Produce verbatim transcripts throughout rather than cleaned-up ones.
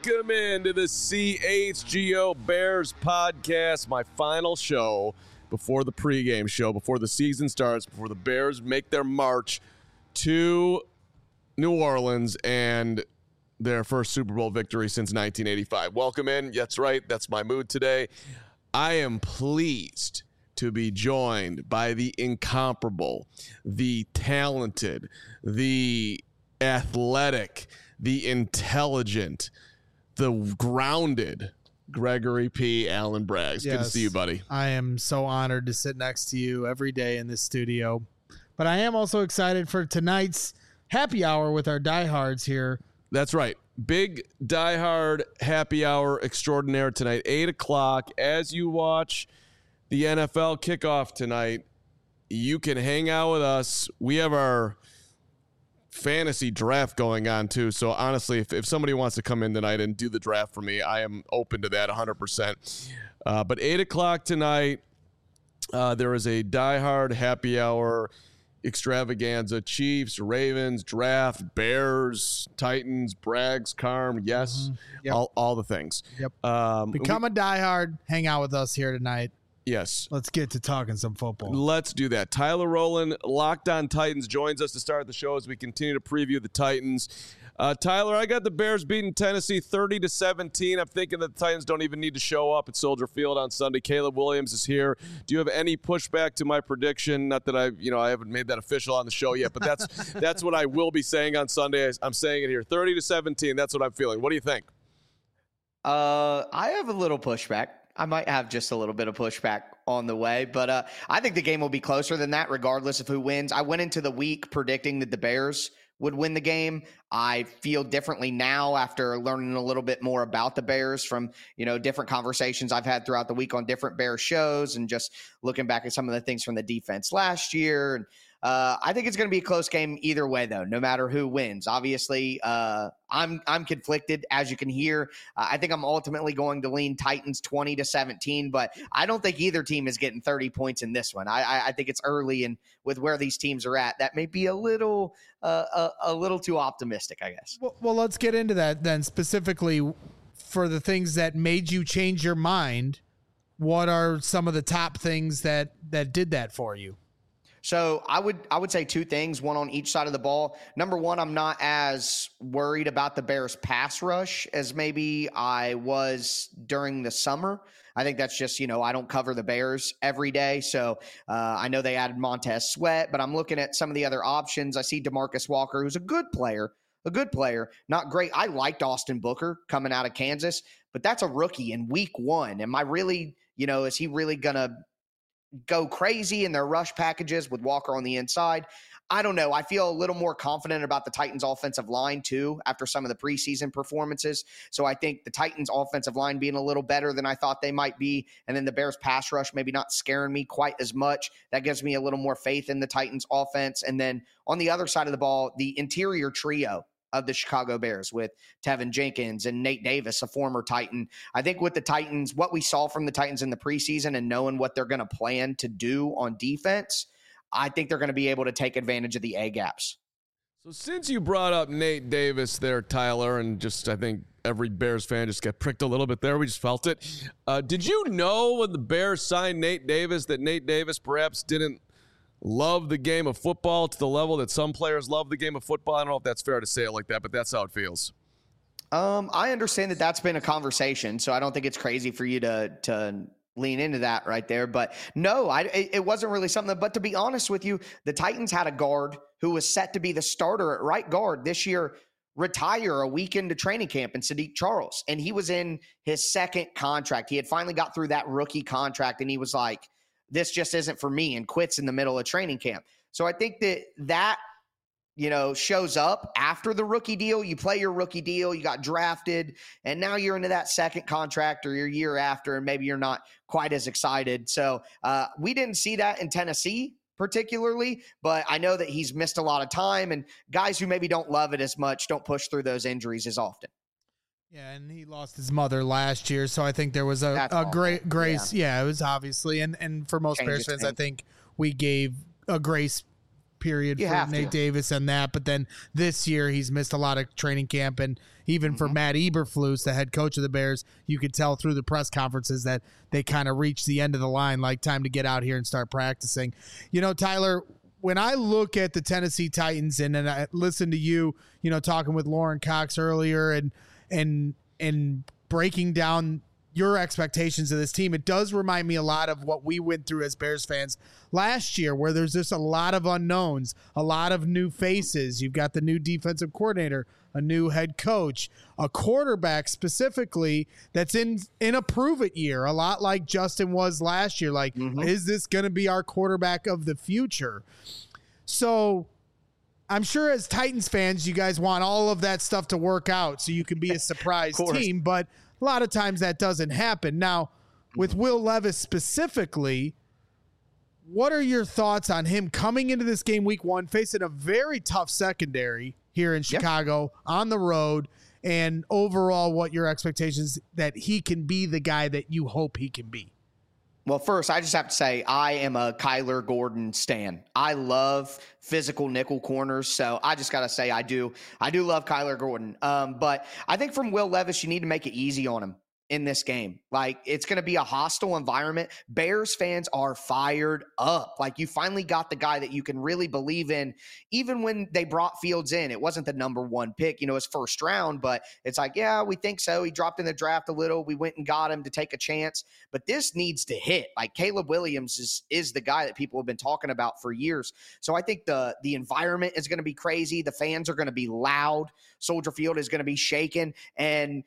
Welcome into the C H G O Bears podcast, my final show before the pregame show, before the season starts, before the Bears make their march to New Orleans and their first Super Bowl victory since nineteen eighty-five. Welcome in. That's right. That's my mood today. I am pleased to be joined by the incomparable, the talented, the athletic, the intelligent, the grounded Gregory P. Allen Braggs. Yes. Good to see you, buddy. I am so honored to sit next to you every day in this studio. But I am also excited for tonight's happy hour with our diehards here. That's right. Big diehard happy hour extraordinaire tonight, eight o'clock. As you watch the N F L kickoff tonight, you can hang out with us. We have our fantasy draft going on too. So honestly, if, if somebody wants to come in tonight and do the draft for me, I am open to that one hundred percent. Uh, but eight o'clock tonight, uh, there is a diehard happy hour extravaganza. Chiefs, Ravens, draft, Bears, Titans, Braggs, Carm, yes, mm-hmm. yep. all, all the things. Yep. Um, Become we, a diehard. Hang out with us here tonight. Yes. Let's get to talking some football. Let's do that. Tyler Rowland, Locked On Titans, joins us to start the show as we continue to preview the Titans. Uh, Tyler, I got the Bears beating Tennessee thirty to seventeen. I'm thinking that the Titans don't even need to show up at Soldier Field on Sunday. Caleb Williams is here. Do you have any pushback to my prediction? Not that I, you know, I haven't made that official on the show yet, but that's that's what I will be saying on Sunday. I'm saying it here, thirty to seventeen. That's what I'm feeling. What do you think? Uh, I have a little pushback. I might have just a little bit of pushback on the way, but uh, I think the game will be closer than that regardless of who wins. I went into the week predicting that the Bears would win the game. I feel differently now after learning a little bit more about the Bears from, you know, different conversations I've had throughout the week on different Bears shows and just looking back at some of the things from the defense last year. And Uh, I think it's going to be a close game either way, though, no matter who wins. Obviously, uh, I'm I'm conflicted, as you can hear. Uh, I think I'm ultimately going to lean Titans twenty to seventeen, but I don't think either team is getting thirty points in this one. I, I, I think it's early, and with where these teams are at, that may be a little uh, a, a little too optimistic, I guess. Well, well, let's get into that then. Specifically, for the things that made you change your mind, what are some of the top things that that did that for you? So I would I would say two things, one on each side of the ball. Number one, I'm not as worried about the Bears pass rush as maybe I was during the summer. I think that's just, you know, I don't cover the Bears every day. So uh, I know they added Montez Sweat, but I'm looking at some of the other options. I see DeMarcus Walker, who's a good player, a good player, not great. I liked Austin Booker coming out of Kansas, but that's a rookie in week one. Am I really, you know, is he really going to go crazy in their rush packages with Walker on the inside? I don't know. I feel a little more confident about the Titans offensive line too after some of the preseason performances. So I think the Titans offensive line being a little better than I thought they might be, and then the Bears pass rush maybe not scaring me quite as much. That gives me a little more faith in the Titans offense. And then on the other side of the ball, the interior trio of the Chicago Bears with Tevin Jenkins and Nate Davis, a former Titan. I think with the Titans, what we saw from the Titans in the preseason and knowing what they're going to plan to do on defense, I think they're going to be able to take advantage of the A gaps. So since you brought up Nate Davis there, Tyler, and just I think every Bears fan just got pricked a little bit there. We just felt it. Uh, did you know when the Bears signed Nate Davis that Nate Davis perhaps didn't love the game of football to the level that some players love the game of football? I don't know if that's fair to say it like that, but that's how it feels. Um, I understand that that's been a conversation, so I don't think it's crazy for you to to lean into that right there. But no, I it, it wasn't really something. That, but to be honest with you, the Titans had a guard who was set to be the starter at right guard this year retire a week into training camp in Sadiq Charles, and he was in his second contract. He had finally got through that rookie contract, and he was like, this just isn't for me, and quits in the middle of training camp. So I think that that, you know, shows up after the rookie deal. You play your rookie deal, you got drafted, and now you're into that second contract or your year after, and maybe you're not quite as excited. So uh, we didn't see that in Tennessee particularly, but I know that he's missed a lot of time, and guys who maybe don't love it as much don't push through those injuries as often. Yeah, and he lost his mother last year, so I think there was a, a great grace. Yeah. yeah, it was obviously, and and for most Bears fans, I think we gave a grace period You for have Nate to. Davis and that. But then this year he's missed a lot of training camp, and even mm-hmm. for Matt Eberflus, the head coach of the Bears, you could tell through the press conferences that they kind of reached the end of the line, like time to get out here and start practicing. You know, Tyler, when I look at the Tennessee Titans and, and I listen to you, you know, talking with Lauren Cox earlier and and and breaking down your expectations of this team, it does remind me a lot of what we went through as Bears fans last year, where there's just a lot of unknowns, a lot of new faces. You've got the new defensive coordinator, a new head coach, a quarterback specifically that's in in a prove-it year, a lot like Justin was last year. Like, mm-hmm. is this going to be our quarterback of the future? So I'm sure as Titans fans, you guys want all of that stuff to work out so you can be a surprise team, but a lot of times that doesn't happen. Now, with Will Levis specifically, what are your thoughts on him coming into this game week one, facing a very tough secondary here in Chicago yeah. on the road, and overall what your expectations that he can be the guy that you hope he can be? Well, first, I just have to say I am a Kyler Gordon stan. I love physical nickel corners, so I just got to say I do I do love Kyler Gordon. Um, but I think from Will Levis, you need to make it easy on him in this game. Like, it's going to be a hostile environment. Bears fans are fired up. Like, you finally got the guy that you can really believe in. Even when they brought Fields in, it wasn't the number one pick, you know, his first round, but it's like, yeah, we think so. He dropped in the draft a little. We went and got him to take a chance, but this needs to hit. Like, Caleb Williams is, is the guy that people have been talking about for years. So I think the, the environment is going to be crazy. The fans are going to be loud. Soldier Field is going to be shaken. And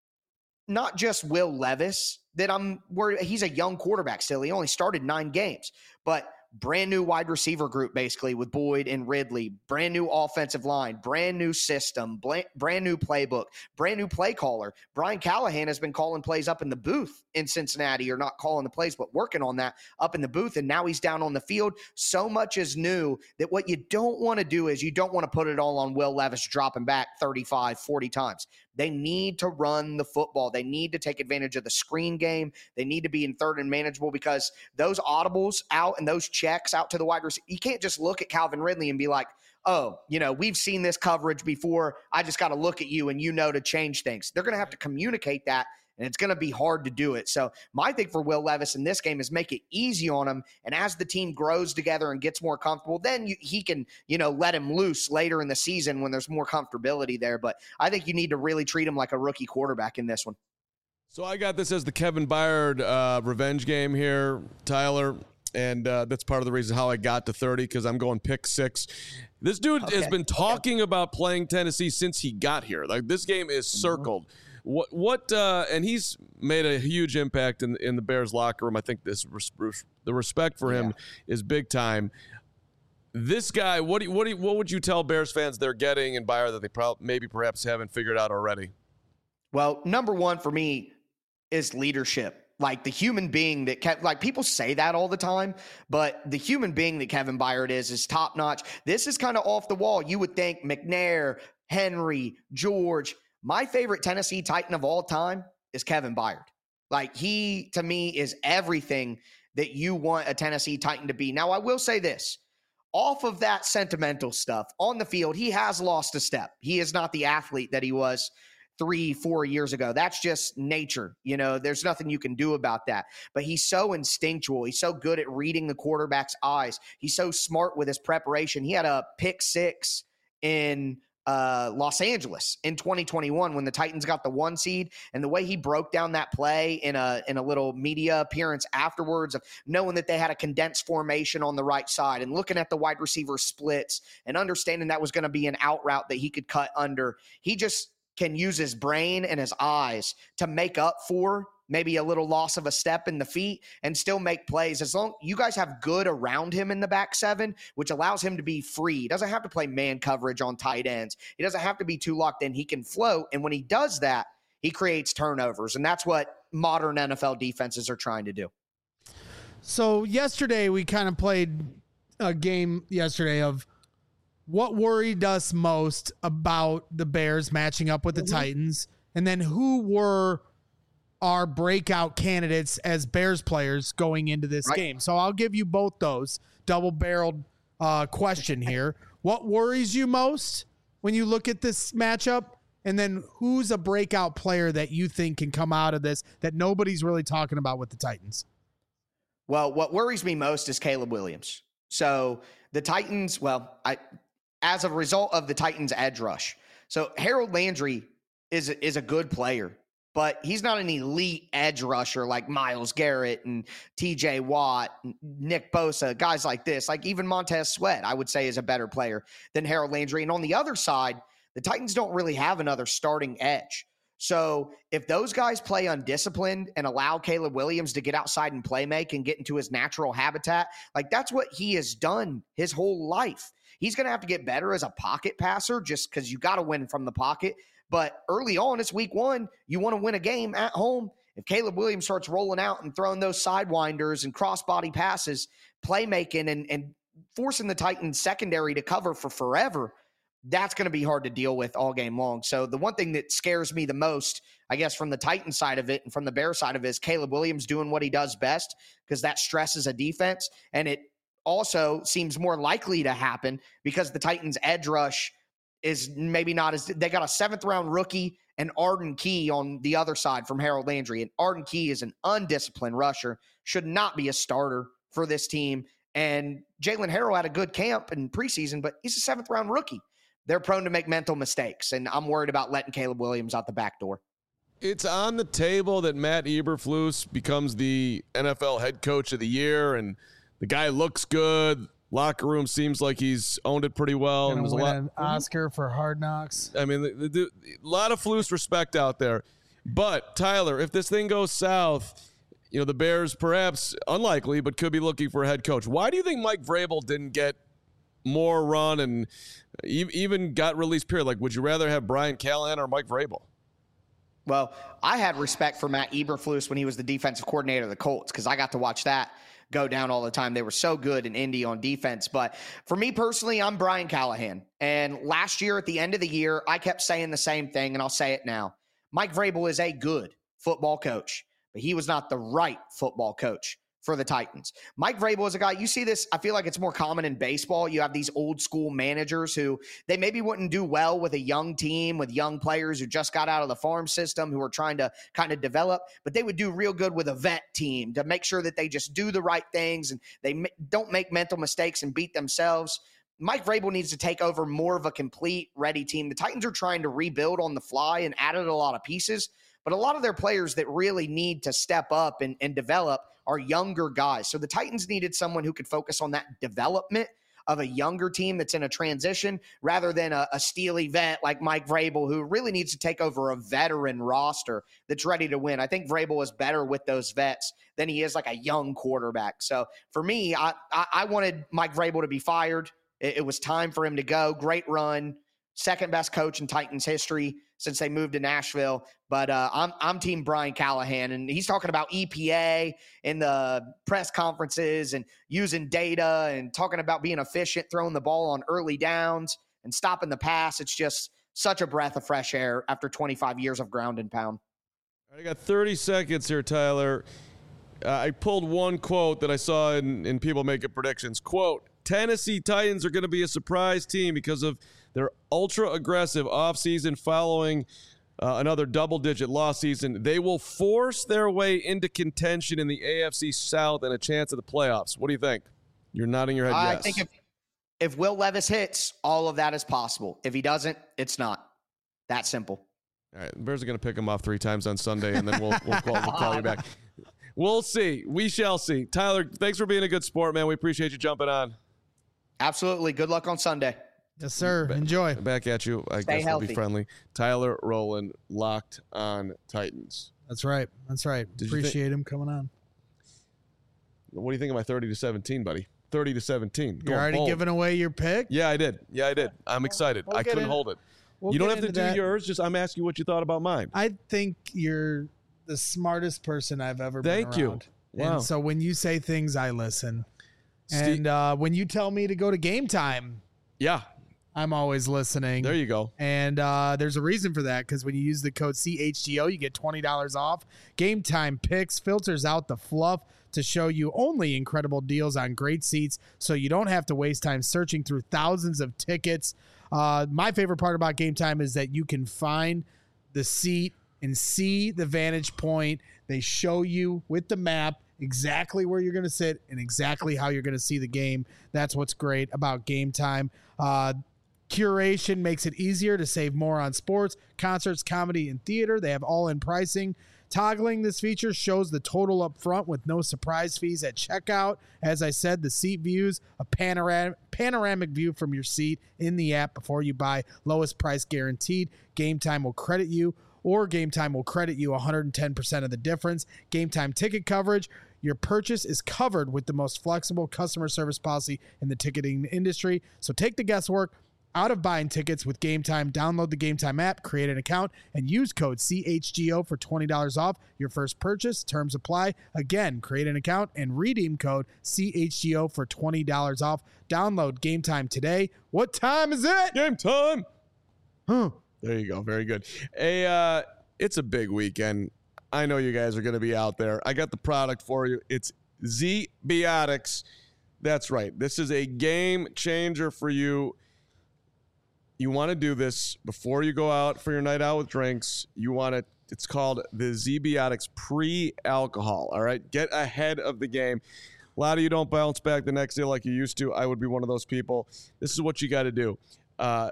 not just Will Levis that I'm worried. He's a young quarterback still. He only started nine games, but brand new wide receiver group, basically, with Boyd and Ridley, brand new offensive line, brand new system, brand new playbook, brand new play caller. Brian Callahan has been calling plays up in the booth in Cincinnati, or not calling the plays, but working on that up in the booth. And now he's down on the field. So much is new that what you don't want to do is you don't want to put it all on Will Levis dropping back thirty-five, forty times. They need to run the football. They need to take advantage of the screen game. They need to be in third and manageable, because those audibles out and those checks out to the wide receiver, you can't just look at Calvin Ridley and be like, oh, you know, we've seen this coverage before. I just got to look at you and you know to change things. They're going to have to communicate that, and it's going to be hard to do it. So my thing for Will Levis in this game is make it easy on him. And as the team grows together and gets more comfortable, then you, he can, you know, let him loose later in the season when there's more comfortability there. But I think you need to really treat him like a rookie quarterback in this one. So I got this as the Kevin Byard uh, revenge game here, Tyler. And uh, that's part of the reason how I got to thirty, because I'm going pick six. This dude okay. has been talking okay. about playing Tennessee since he got here. Like, this game is circled. Mm-hmm. What what uh, and he's made a huge impact in in the Bears locker room. I think this the respect for him yeah. is big time. This guy, what do you, what do you, what would you tell Bears fans they're getting in Byard that they probably maybe perhaps haven't figured out already? Well, number one for me is leadership. Like, the human being that Kev, like people say that all the time, but the human being that Kevin Byard is is top notch. This is kind of off the wall. You would think McNair, Henry, George. My favorite Tennessee Titan of all time is Kevin Byard. Like, he, to me, is everything that you want a Tennessee Titan to be. Now, I will say this. Off of that sentimental stuff, on the field, he has lost a step. He is not the athlete that he was three, four years ago. That's just nature. You know, there's nothing you can do about that. But he's so instinctual. He's so good at reading the quarterback's eyes. He's so smart with his preparation. He had a pick six in uh, Los Angeles in twenty twenty-one when the Titans got the one seed, and the way he broke down that play in a in a little media appearance afterwards, of knowing that they had a condensed formation on the right side and looking at the wide receiver splits and understanding that was going to be an out route that he could cut under. He just can use his brain and his eyes to make up for maybe a little loss of a step in the feet and still make plays. As long you guys have good around him in the back seven, which allows him to be free. He doesn't have to play man coverage on tight ends. He doesn't have to be too locked in. He can float. And when he does that, he creates turnovers. And that's what modern N F L defenses are trying to do. So yesterday we kind of played a game yesterday of what worried us most about the Bears matching up with the mm-hmm. Titans, and then who were our breakout candidates as Bears players going into this right. game. So I'll give you both those double-barreled uh, question here. What worries you most when you look at this matchup? And then who's a breakout player that you think can come out of this that nobody's really talking about with the Titans? Well, what worries me most is Caleb Williams. So the Titans, well, I, as a result of the Titans' edge rush. So Harold Landry is, is a good player, but he's not an elite edge rusher like Myles Garrett and T J Watt, and Nick Bosa, guys like this. Like even Montez Sweat, I would say, is a better player than Harold Landry. And on the other side, the Titans don't really have another starting edge. So if those guys play undisciplined and allow Caleb Williams to get outside and play make and get into his natural habitat, like that's what he has done his whole life. He's going to have to get better as a pocket passer just because you got to win from the pocket. But early on, it's week one. You want to win a game at home. If Caleb Williams starts rolling out and throwing those sidewinders and crossbody passes, playmaking and, and forcing the Titans secondary to cover for forever, that's going to be hard to deal with all game long. So the one thing that scares me the most, I guess, from the Titans side of it and from the Bears side of it is Caleb Williams doing what he does best, because that stresses a defense. And it also seems more likely to happen because the Titans edge rush is maybe not as, they got a seventh round rookie and Arden Key on the other side from Harold Landry. And Arden Key is an undisciplined rusher, should not be a starter for this team. And Jalen Harrell had a good camp in preseason, but he's a seventh round rookie. They're prone to make mental mistakes, and I'm worried about letting Caleb Williams out the back door. It's on the table that Matt Eberflus becomes the N F L head coach of the year, and the guy looks good. Locker room seems like he's owned it pretty well. Gonna and there's win a lot, an Oscar for Hard Knocks. I mean, the, the, the, a lot of Flus respect out there. But, Tyler, if this thing goes south, you know, the Bears perhaps, unlikely, but could be looking for a head coach. Why do you think Mike Vrabel didn't get more run and even got released, period? Like, would you rather have Brian Callahan or Mike Vrabel? Well, I had respect for Matt Eberflus when he was the defensive coordinator of the Colts, because I got to watch that go down all the time. They were so good in Indy on defense. But for me personally, I'm Brian Callahan. And last year at the end of the year, I kept saying the same thing, and I'll say it now. Mike Vrabel is a good football coach, but he was not the right football coach for the Titans. Mike Vrabel is a guy, you see this, I feel like it's more common in baseball. You have these old school managers who they maybe wouldn't do well with a young team, with young players who just got out of the farm system, who are trying to kind of develop, but they would do real good with a vet team to make sure that they just do the right things and they don't make mental mistakes and beat themselves. Mike Vrabel needs to take over more of a complete, ready team. The Titans are trying to rebuild on the fly and added a lot of pieces, but a lot of their players that really need to step up and, and develop are younger guys. So the Titans needed someone who could focus on that development of a younger team that's in a transition rather than a, a steely vet like Mike Vrabel, who really needs to take over a veteran roster that's ready to win. I think Vrabel is better with those vets than he is like a young quarterback. So for me, I, I, I wanted Mike Vrabel to be fired. It, it was time for him to go. Great run. Second best coach in Titans history since they moved to Nashville. But uh, I'm I'm team Brian Callahan, and he's talking about E P A in the press conferences and using data and talking about being efficient, throwing the ball on early downs and stopping the pass. It's just such a breath of fresh air after twenty-five years of ground and pound. I got thirty seconds here, Tyler. Uh, I pulled one quote that I saw in, in People Making Predictions. Quote, Tennessee Titans are going to be a surprise team because of their ultra-aggressive offseason following uh, another double-digit loss season. They will force their way into contention in the A F C South and a chance at the playoffs. What do you think? You're nodding your head I yes. think if, if Will Levis hits, all of that is possible. If he doesn't, it's not. That simple. All right, the Bears are going to pick him off three times on Sunday, and then we'll, we'll, call, we'll call you back. We'll see. We shall see. Tyler, thanks for being a good sport, man. We appreciate you jumping on. Absolutely. Good luck on Sunday. Yes, sir. Enjoy. Back at you. I Stay guess healthy. I'll be friendly. Tyler Rowland, Locked on Titans. That's right. That's right. Did you Appreciate him coming on. What do you think of my thirty to seventeen, buddy? thirty to seventeen. You're Going already bold. giving away your pick? Yeah, I did. Yeah, I did. I'm excited. we'll I get couldn't in- hold it. We'll you don't get have to into do that. yours. Just I'm asking you what you thought about mine. I think you're the smartest person I've ever Thank been you. around. Wow. And so when you say things, I listen. Steve- And uh, when you tell me to go to Game Time, Yeah, I'm always listening. there you go. And uh, there's a reason for that, because when you use the code C H G O, you get twenty dollars off. Game Time Picks filters out the fluff to show you only incredible deals on great seats so you don't have to waste time searching through thousands of tickets. Uh, my favorite part about Game Time is that you can find the seat and see the vantage point. They show you with the map exactly where you're going to sit and exactly how you're going to see the game. That's what's great about Game Time. Uh, curation makes it easier to save more on sports, concerts, comedy, and theater. They have all-in pricing. Toggling this feature shows the total up front with no surprise fees at checkout. As I said, the seat views a panoramic, panoramic view from your seat in the app before you buy. Lowest price guaranteed. Game Time will credit you, or Game Time will credit you one hundred ten percent of the difference. Game Time ticket coverage. Your purchase is covered with the most flexible customer service policy in the ticketing industry. So take the guesswork out of buying tickets with Game Time. Download the Game Time app, create an account, and use code C H G O for twenty dollars off your first purchase. Terms apply. Again, create an account and redeem code C H G O for twenty dollars off. Download Game Time today. What time is it? Game time. Huh. There you go. Very good. A, uh, it's a big weekend. I know you guys are going to be out there. I got the product for you. It's Z-Biotics. That's right. This is a game changer for you. You want to do this before you go out for your night out with drinks. You want to, it's called the Z-Biotics pre-alcohol, all right? Get ahead of the game. A lot of you don't bounce back the next day like you used to. I would be one of those people. This is what you got to do. Uh,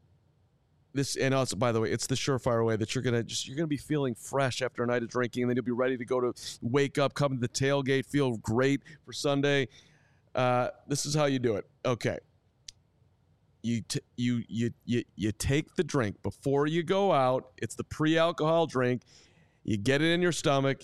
this, and also, by the way, it's the surefire way that you're going to just, you're going to be feeling fresh after a night of drinking, and then you'll be ready to go to wake up, come to the tailgate, feel great for Sunday. Uh, this is how you do it. Okay. You, t- you you you you take the drink before you go out. It's the pre-alcohol drink. You get it in your stomach,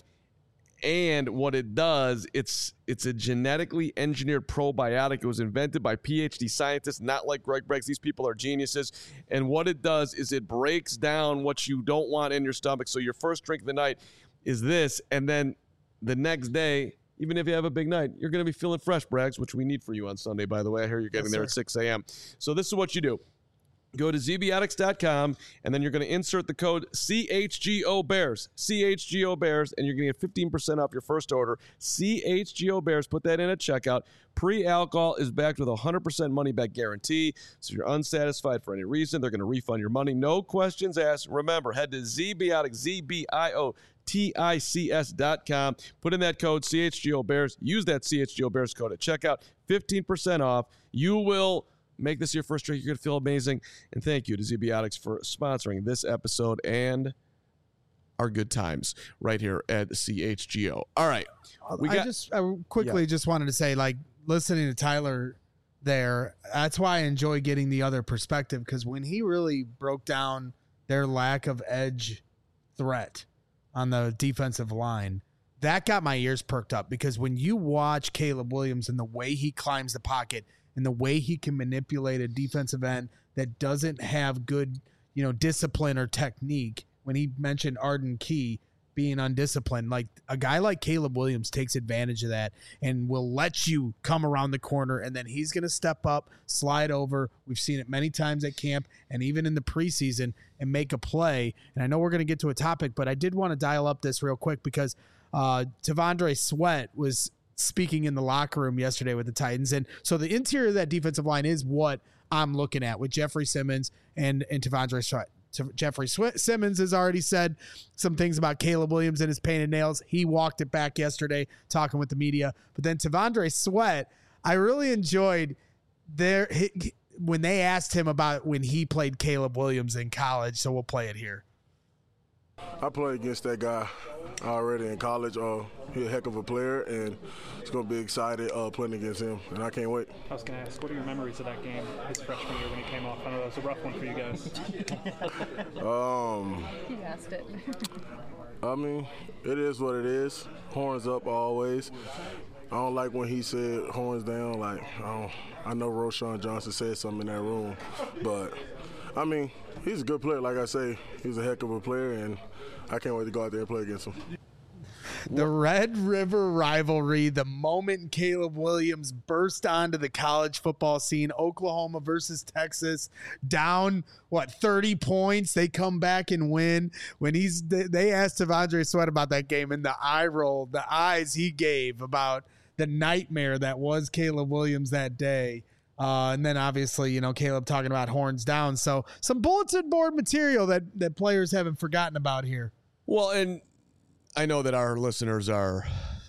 and what it does, it's it's a genetically engineered probiotic. It was invented by P H D scientists, not like Greg Briggs. These people are geniuses. And what it does is it breaks down what you don't want in your stomach. So your first drink of the night is this, and then the next day, even if you have a big night, you're going to be feeling fresh, Braggs, which we need for you on Sunday, by the way. I hear you're getting yes, there sir. at six a.m. So this is what you do. Go to Z Biotics dot com, and then you're going to insert the code C H G O Bears, C H G O Bears, and you're going to get fifteen percent off your first order. C H G O Bears, put that in at checkout. Pre-alcohol is backed with a one hundred percent money-back guarantee. So if you're unsatisfied for any reason, they're going to refund your money. No questions asked. Remember, head to Z Biotics, Z B I O T I C S dot com. Put in that code C H G O Bears. Use that C H G O Bears code at checkout. fifteen percent off. You will make this your first drink. You're going to feel amazing. And thank you to Z-Biotics for sponsoring this episode and our good times right here at C H G O. All right. We got, I just I quickly yeah. just wanted to say, like, listening to Tyler there, that's why I enjoy getting the other perspective, because when he really broke down their lack of edge threat on the defensive line, that got my ears perked up, because when you watch Caleb Williams and the way he climbs the pocket and the way he can manipulate a defensive end that doesn't have good, you know, discipline or technique, when he mentioned Arden Key being undisciplined, like a guy like Caleb Williams takes advantage of that and will let you come around the corner, and then he's going to step up, slide over. We've seen it many times at camp and even in the preseason, and make a play. And I know we're going to get to a topic, but I did want to dial up this real quick, because uh, T'Vondre Sweat was speaking in the locker room yesterday with the Titans. And so the interior of that defensive line is what I'm looking at with Jeffrey Simmons and, and T'Vondre Sweat. Jeffrey Simmons has already said some things about Caleb Williams and his painted nails. He walked it back yesterday talking with the media. But then T'Vondre Sweat, I really enjoyed their when they asked him about when he played Caleb Williams in college. So we'll play it here. I played against that guy already in college. Uh, he's a heck of a player, and it's going to be excited uh, playing against him, and I can't wait. I was going to ask, what are your memories of that game his freshman year when he came off? I know that was a rough one for you guys. um, you asked it. I mean, it is what it is. Horns up always. I don't like when he said horns down. Like, I, don't, I know Roschon Johnson said something in that room, but I mean, he's a good player. Like I say, he's a heck of a player, and I can't wait to go out there and play against him. The Red River rivalry, the moment Caleb Williams burst onto the college football scene, Oklahoma versus Texas, down, what, thirty points. They come back and win. When he's, they asked T'Vondre Sweat about that game, and the eye roll, the eyes he gave about the nightmare that was Caleb Williams that day. Uh, and then obviously, you know, Caleb talking about horns down. So some bulletin board material that, that players haven't forgotten about here. Well, and I know that our listeners are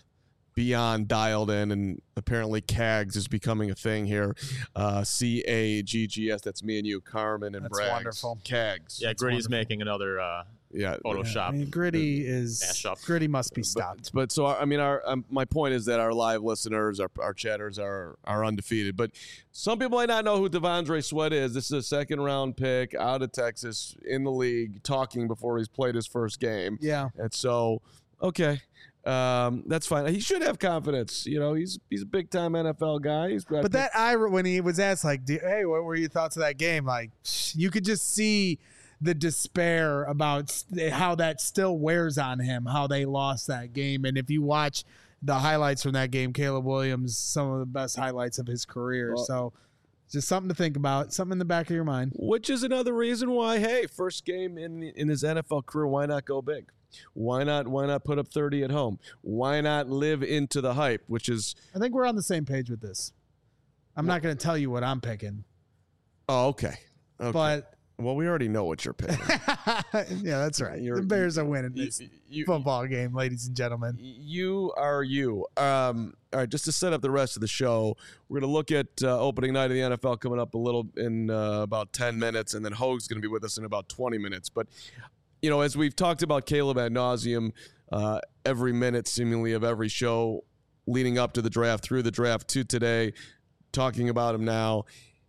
beyond dialed in, and apparently C A G S is becoming a thing here. Uh, C A G G S, that's me and you, Carmen and That's Braggs. wonderful. C A G S. Yeah, Gritty's making another uh, Yeah. Photoshop. I mean, Gritty is Mashup. Gritty must be stopped. But, but so, I mean, our um, my point is that our live listeners, our, our chatters are are undefeated. But some people might not know who T'Vondre Sweat is. This is a second round pick out of Texas in the league, talking before he's played his first game. Yeah. And so, okay. Um, that's fine. He should have confidence. You know, he's he's a big time N F L guy. He's got But that eye when he was asked, like, hey, what were your thoughts of that game? Like, you could just see the despair about how that still wears on him, how they lost that game. And if you watch the highlights from that game, Caleb Williams, some of the best highlights of his career. Well, so just something to think about, something in the back of your mind. Which is another reason why, hey, first game in in his N F L career, why not go big? Why not why not put up thirty at home? Why not live into the hype, which is I think we're on the same page with this. I'm not going to tell you what I'm picking. Oh, okay. okay. But well, we already know what you're picking. yeah, that's right. You're- the Bears are winning this You- you- football game, ladies and gentlemen. You are you. Um, all right, just to set up the rest of the show, we're going to look at uh, opening night of the N F L coming up a little in uh, about ten minutes, and then Hoag's going to be with us in about twenty minutes. But, you know, as we've talked about Caleb ad nauseum, uh, every minute seemingly of every show leading up to the draft, through the draft to today, talking about him now.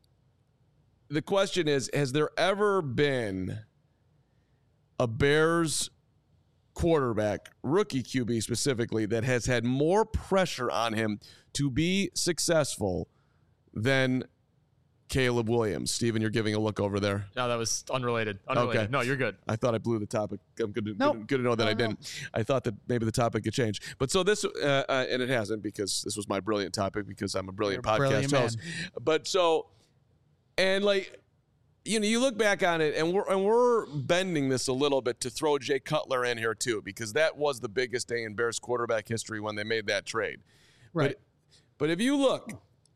The question is, has there ever been a Bears quarterback, rookie Q B specifically, that has had more pressure on him to be successful than Caleb Williams? Steven, you're giving a look over there. No, that was unrelated. Unrelated. Okay. No, you're good. I thought I blew the topic. I'm good to, Nope. good, good to know that No, I no. didn't. I thought that maybe the topic could change. But so this, uh, uh, and it hasn't, because this was my brilliant topic, because I'm a brilliant You're a podcast brilliant host. But so, and like, you know, you look back on it, and we're and we're bending this a little bit to throw Jay Cutler in here too, because that was the biggest day in Bears quarterback history when they made that trade. Right. But, but if you look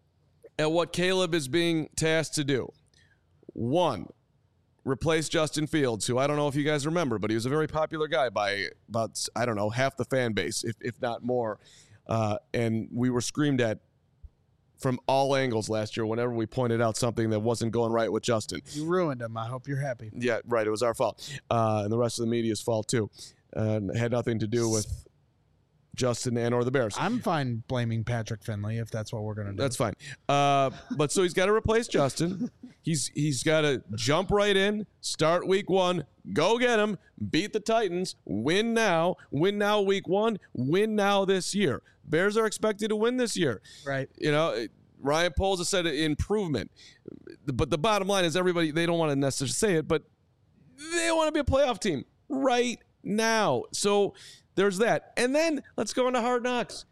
at what Caleb is being tasked to do, one, replace Justin Fields, who I don't know if you guys remember, but he was a very popular guy by about, I don't know, half the fan base, if if not more. Uh, and we were screamed at from all angles last year whenever we pointed out something that wasn't going right with Justin. You ruined him. I hope you're happy. Yeah, right. It was our fault. Uh, and the rest of the media's fault, too. Uh, it had nothing to do with Justin and or the Bears. I'm fine blaming Patrick Finley if that's what we're going to do. That's fine. Uh, but so he's got to replace Justin. He's He's got to jump right in, start week one, go get him, beat the Titans, win now, win now week one, win now this year. Bears are expected to win this year. Right. You know, Ryan Poles has said improvement. But the bottom line is everybody, they don't want to necessarily say it, but they want to be a playoff team right now. So there's that. And then let's go into Hard Knocks.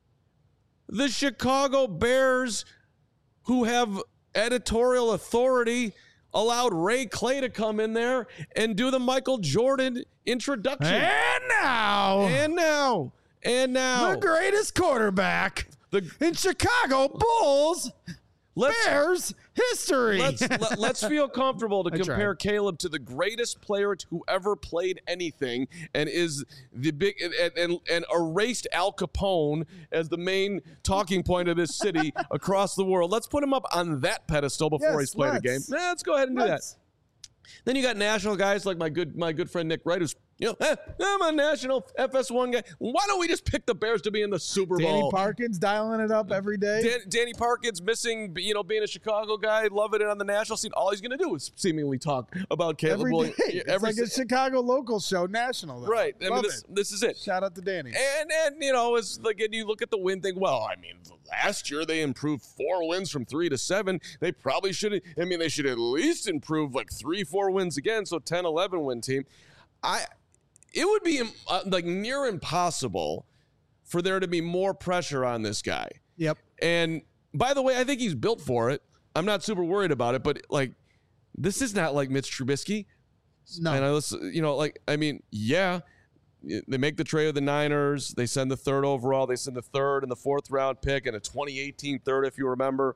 The Chicago Bears, who have editorial authority, allowed Ray Clay to come in there and do the Michael Jordan introduction. And now, And now, and now, the greatest quarterback the, in Chicago Bulls let's, Bears history. let's, let, let's feel comfortable to I compare tried. Caleb to the greatest player who ever played anything, and is the big and, and, and erased Al Capone as the main talking point of this city across the world. Let's put him up on that pedestal before Yes, he's played a game. let's. Nah, let's go ahead and do Let's. that. Then you got national guys like my good my good friend Nick Wright, who's, you know, eh, I'm a national F S one guy. Why don't we just pick the Bears to be in the Super Danny Bowl? Parkins dialing it up every day. Dan, Danny Parkins missing, you know, being a Chicago guy, loving it on the national scene. All he's going to do is seemingly talk about Caleb every day. Williams. It's Every like a se- Chicago local show, national. Though. right. I Love mean, this, it. this is it. Shout out to Danny. And, and you know, it's like, and you look at the win thing. Well, I mean, last year they improved four wins from three to seven. They probably should. I mean, they should at least improve like three, four wins again. So ten, eleven win team. I, it would be uh, like near impossible for there to be more pressure on this guy. Yep. And by the way, I think he's built for it. I'm not super worried about it, but like, this is not like Mitch Trubisky. No. And I listen, you know, like, I mean, yeah, they make the trade with the Niners. They send the third overall. They send the third and the fourth round pick and a twenty eighteen third, if you remember.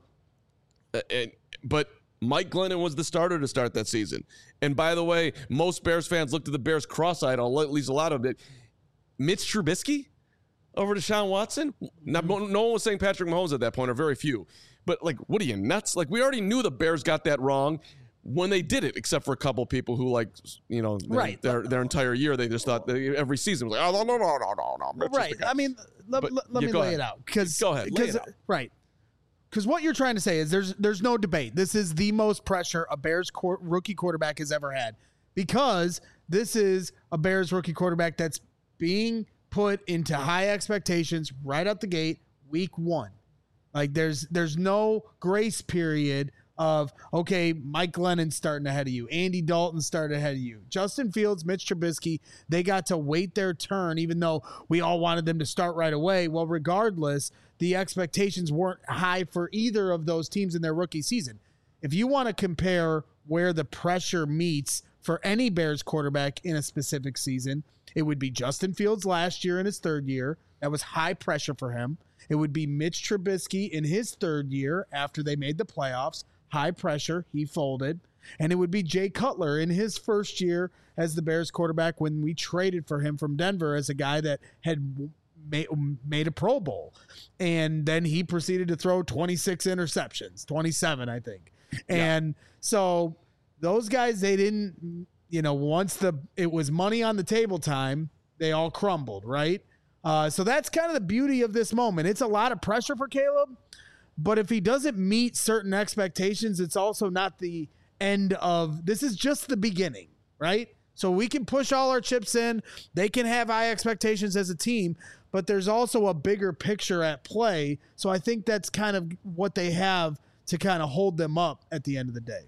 And, but Mike Glennon was the starter to start that season. And by the way, most Bears fans looked at the Bears cross-eyed, or at least a lot of it. Mitch Trubisky over Deshaun Watson? Not, no one was saying Patrick Mahomes at that point, or very few. But, like, what are you, nuts? Like, we already knew the Bears got that wrong when they did it, except for a couple people who, like, you know, right. their their entire year, they just thought they, every season was like, oh, no, no, no, no, no, no. Mitch Right. I mean, let, But, let, let yeah, me go lay ahead. it out. Cause, Go ahead, lay it out. Right. Because what you're trying to say is there's there's no debate. This is the most pressure a Bears qu- rookie quarterback has ever had, because this is a Bears rookie quarterback that's being put into high expectations right out the gate, week one. Like there's there's no grace period of, okay, Mike Glennon's starting ahead of you, Andy Dalton started ahead of you, Justin Fields, Mitch Trubisky, they got to wait their turn, even though we all wanted them to start right away. Well, regardless, the expectations weren't high for either of those teams in their rookie season. If you want to compare where the pressure meets for any Bears quarterback in a specific season, it would be Justin Fields last year in his third year. That was high pressure for him. It would be Mitch Trubisky in his third year after they made the playoffs. High pressure. He folded. And it would be Jay Cutler in his first year as the Bears quarterback when we traded for him from Denver as a guy that had made, made a Pro Bowl. And then he proceeded to throw twenty-six interceptions, twenty-seven, I think. And yeah. so those guys, they didn't, you know, once the it was money on the table time, they all crumbled, right? Uh, so that's kind of the beauty of this moment. It's a lot of pressure for Caleb, but if he doesn't meet certain expectations, it's also not the end of, this is just the beginning, right? So we can push all our chips in. They can have high expectations as a team, but there's also a bigger picture at play. So I think that's kind of what they have to kind of hold them up at the end of the day.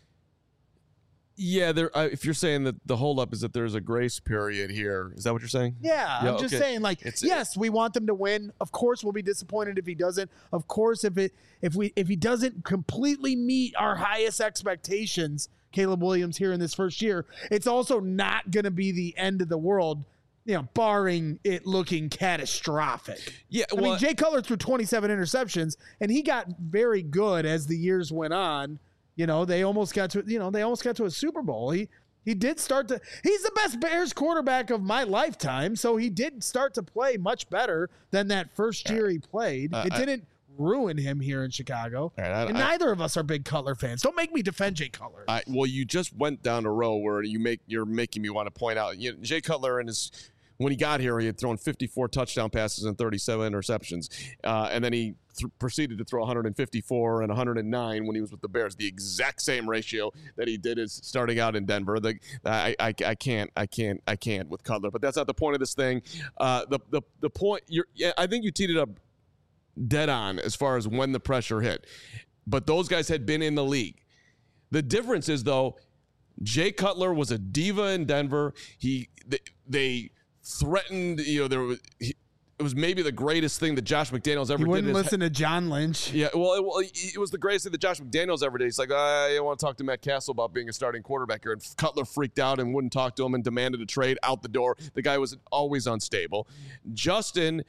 Yeah, there. Uh, if you're saying that the holdup is that there's a grace period here, is that what you're saying? Yeah, yeah I'm just okay. saying, like, it's, yes, we want them to win. Of course, we'll be disappointed if he doesn't. Of course, if it if we if he doesn't completely meet our highest expectations, Caleb Williams here in this first year, it's also not going to be the end of the world, you know, barring it looking catastrophic. Yeah, well, I mean, Jay Cutler threw twenty-seven interceptions, and he got very good as the years went on. You know, they almost got to, you know, they almost got to a Super Bowl. He he did start to, he's the best Bears quarterback of my lifetime. So he did start to play much better than that first year he played. Uh, it didn't I, ruin him here in Chicago. Right, I, and I, neither of us are big Cutler fans. Don't make me defend Jay Cutler. I, well, you just went down a row where you make, you're making me want to point out, you know, Jay Cutler and his, when he got here, he had thrown fifty-four touchdown passes and thirty-seven interceptions. Uh, and then he th- proceeded to throw one hundred fifty-four and one hundred nine when he was with the Bears. The exact same ratio that he did is starting out in Denver. The, I, I, I can't, I can't, I can't with Cutler. But that's not the point of this thing. Uh, the, the, the point, you're, yeah, I think you teed it up dead on as far as when the pressure hit. But those guys had been in the league. The difference is, though, Jay Cutler was a diva in Denver. He, they, they threatened, you know, there was, he, it was maybe the greatest thing that Josh McDaniels ever did. He wouldn't did listen he- to John Lynch. Yeah, well it, well, it was the greatest thing that Josh McDaniels ever did. He's like, I want to talk to Matt Castle about being a starting quarterback here. And Cutler freaked out and wouldn't talk to him and demanded a trade out the door. The guy was always unstable. Justin,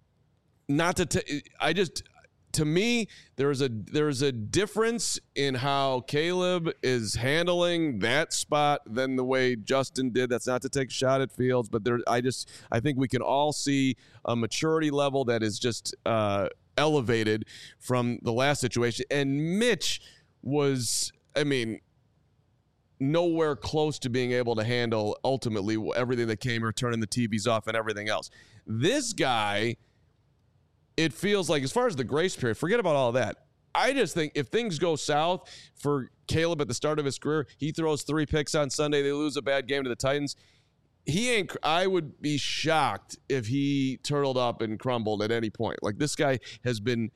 not to, t- I just, to me, there's a there's a difference in how Caleb is handling that spot than the way Justin did. That's not to take a shot at Fields, but there, I just I think we can all see a maturity level that is just uh, elevated from the last situation. And Mitch was, I mean, nowhere close to being able to handle ultimately everything that came here, turning the T Vs off and everything else. This guy, it feels like, as far as the grace period, forget about all that. I just think if things go south for Caleb at the start of his career, he throws three picks on Sunday, they lose a bad game to the Titans. He ain't, I would be shocked if he turtled up and crumbled at any point. Like, this guy has been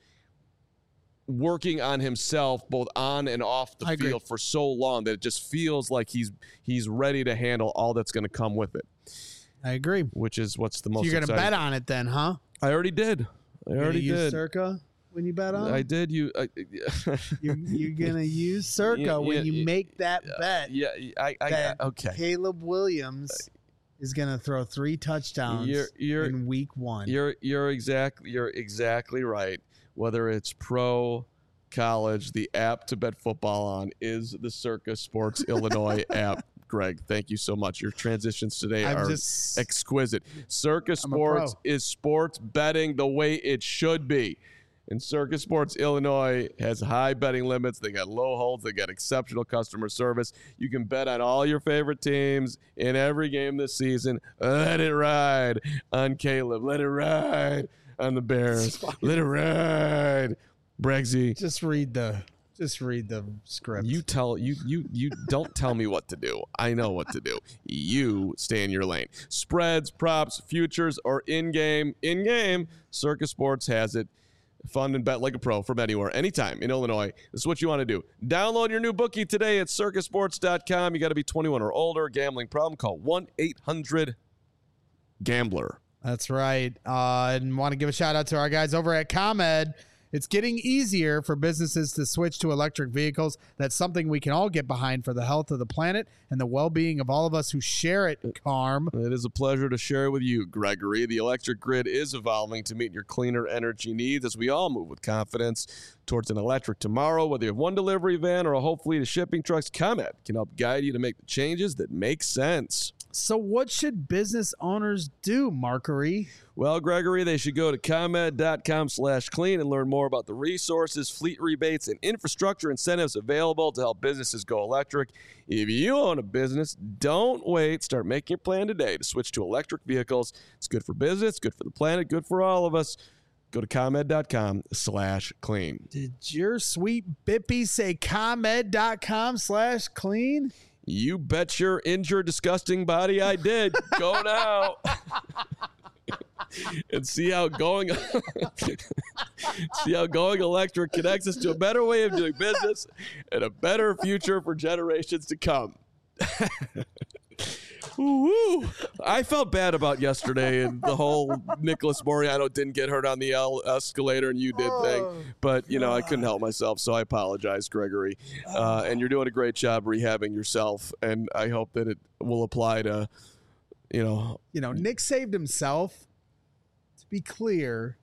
working on himself both on and off the I field agree. for so long that it just feels like he's he's ready to handle all that's going to come with it. I agree. Which is what's the most So you're going to exciting. bet on it then, huh? I already did. I You already gonna use did. Circa when you bet on? I did. You. I, You're, you're gonna use Circa Yeah, when yeah, you yeah, make that bet. yeah. I. I. that I okay. Caleb Williams is gonna throw three touchdowns You're- you're- in week one. You're. You're exactly. You're exactly right. Whether it's pro, college, the app to bet football on is the Circa Sports Illinois app. Greg, thank you so much. Your transitions today I'm are just exquisite. Circa I'm a pro. Sports is sports betting the way it should be. And Circa Sports Illinois has high betting limits. They got low holds. They got exceptional customer service. You can bet on all your favorite teams in every game this season. Let it ride on Caleb. Let it ride on the Bears. Let it ride. Bregsy. just read the just read the script. You tell you you you don't tell me what to do. I know what to do. You stay in your lane. Spreads, props, futures, or in-game, in-game, Circa Sports has it. Fund and bet like a pro from anywhere, anytime in Illinois. This is what you want to do. Download your new bookie today at circa sports dot com. You got to be twenty-one or older. Gambling problem? Call one eight hundred gambler. That's right. Uh, and want to give a shout out to our guys over at ComEd. It's getting easier for businesses to switch to electric vehicles. That's something we can all get behind for the health of the planet and the well-being of all of us who share it, Carm. It is a pleasure to share with you, Gregory. The electric grid is evolving to meet your cleaner energy needs as we all move with confidence towards an electric tomorrow. Whether you have one delivery van or a whole fleet of shipping trucks, ComEd can help guide you to make the changes that make sense. So what should business owners do, Markery? Well, Gregory, they should go to ComEd.com slash clean and learn more about the resources, fleet rebates, and infrastructure incentives available to help businesses go electric. If you own a business, don't wait. Start making your plan today to switch to electric vehicles. It's good for business, good for the planet, good for all of us. Go to ComEd.com slash clean. Did your sweet Bippy say ComEd.com slash clean? You bet your injured, disgusting body I did. Go now. And see how going see how going electric connects us to a better way of doing business and a better future for generations to come. Woo-woo. I felt bad about yesterday and the whole Nicholas Moriano didn't get hurt on the el- escalator and you did thing. But, you know, I couldn't help myself, so I apologize, Gregory. Uh, and you're doing a great job rehabbing yourself, and I hope that it will apply to, you know. You know, Nick saved himself. To be clear,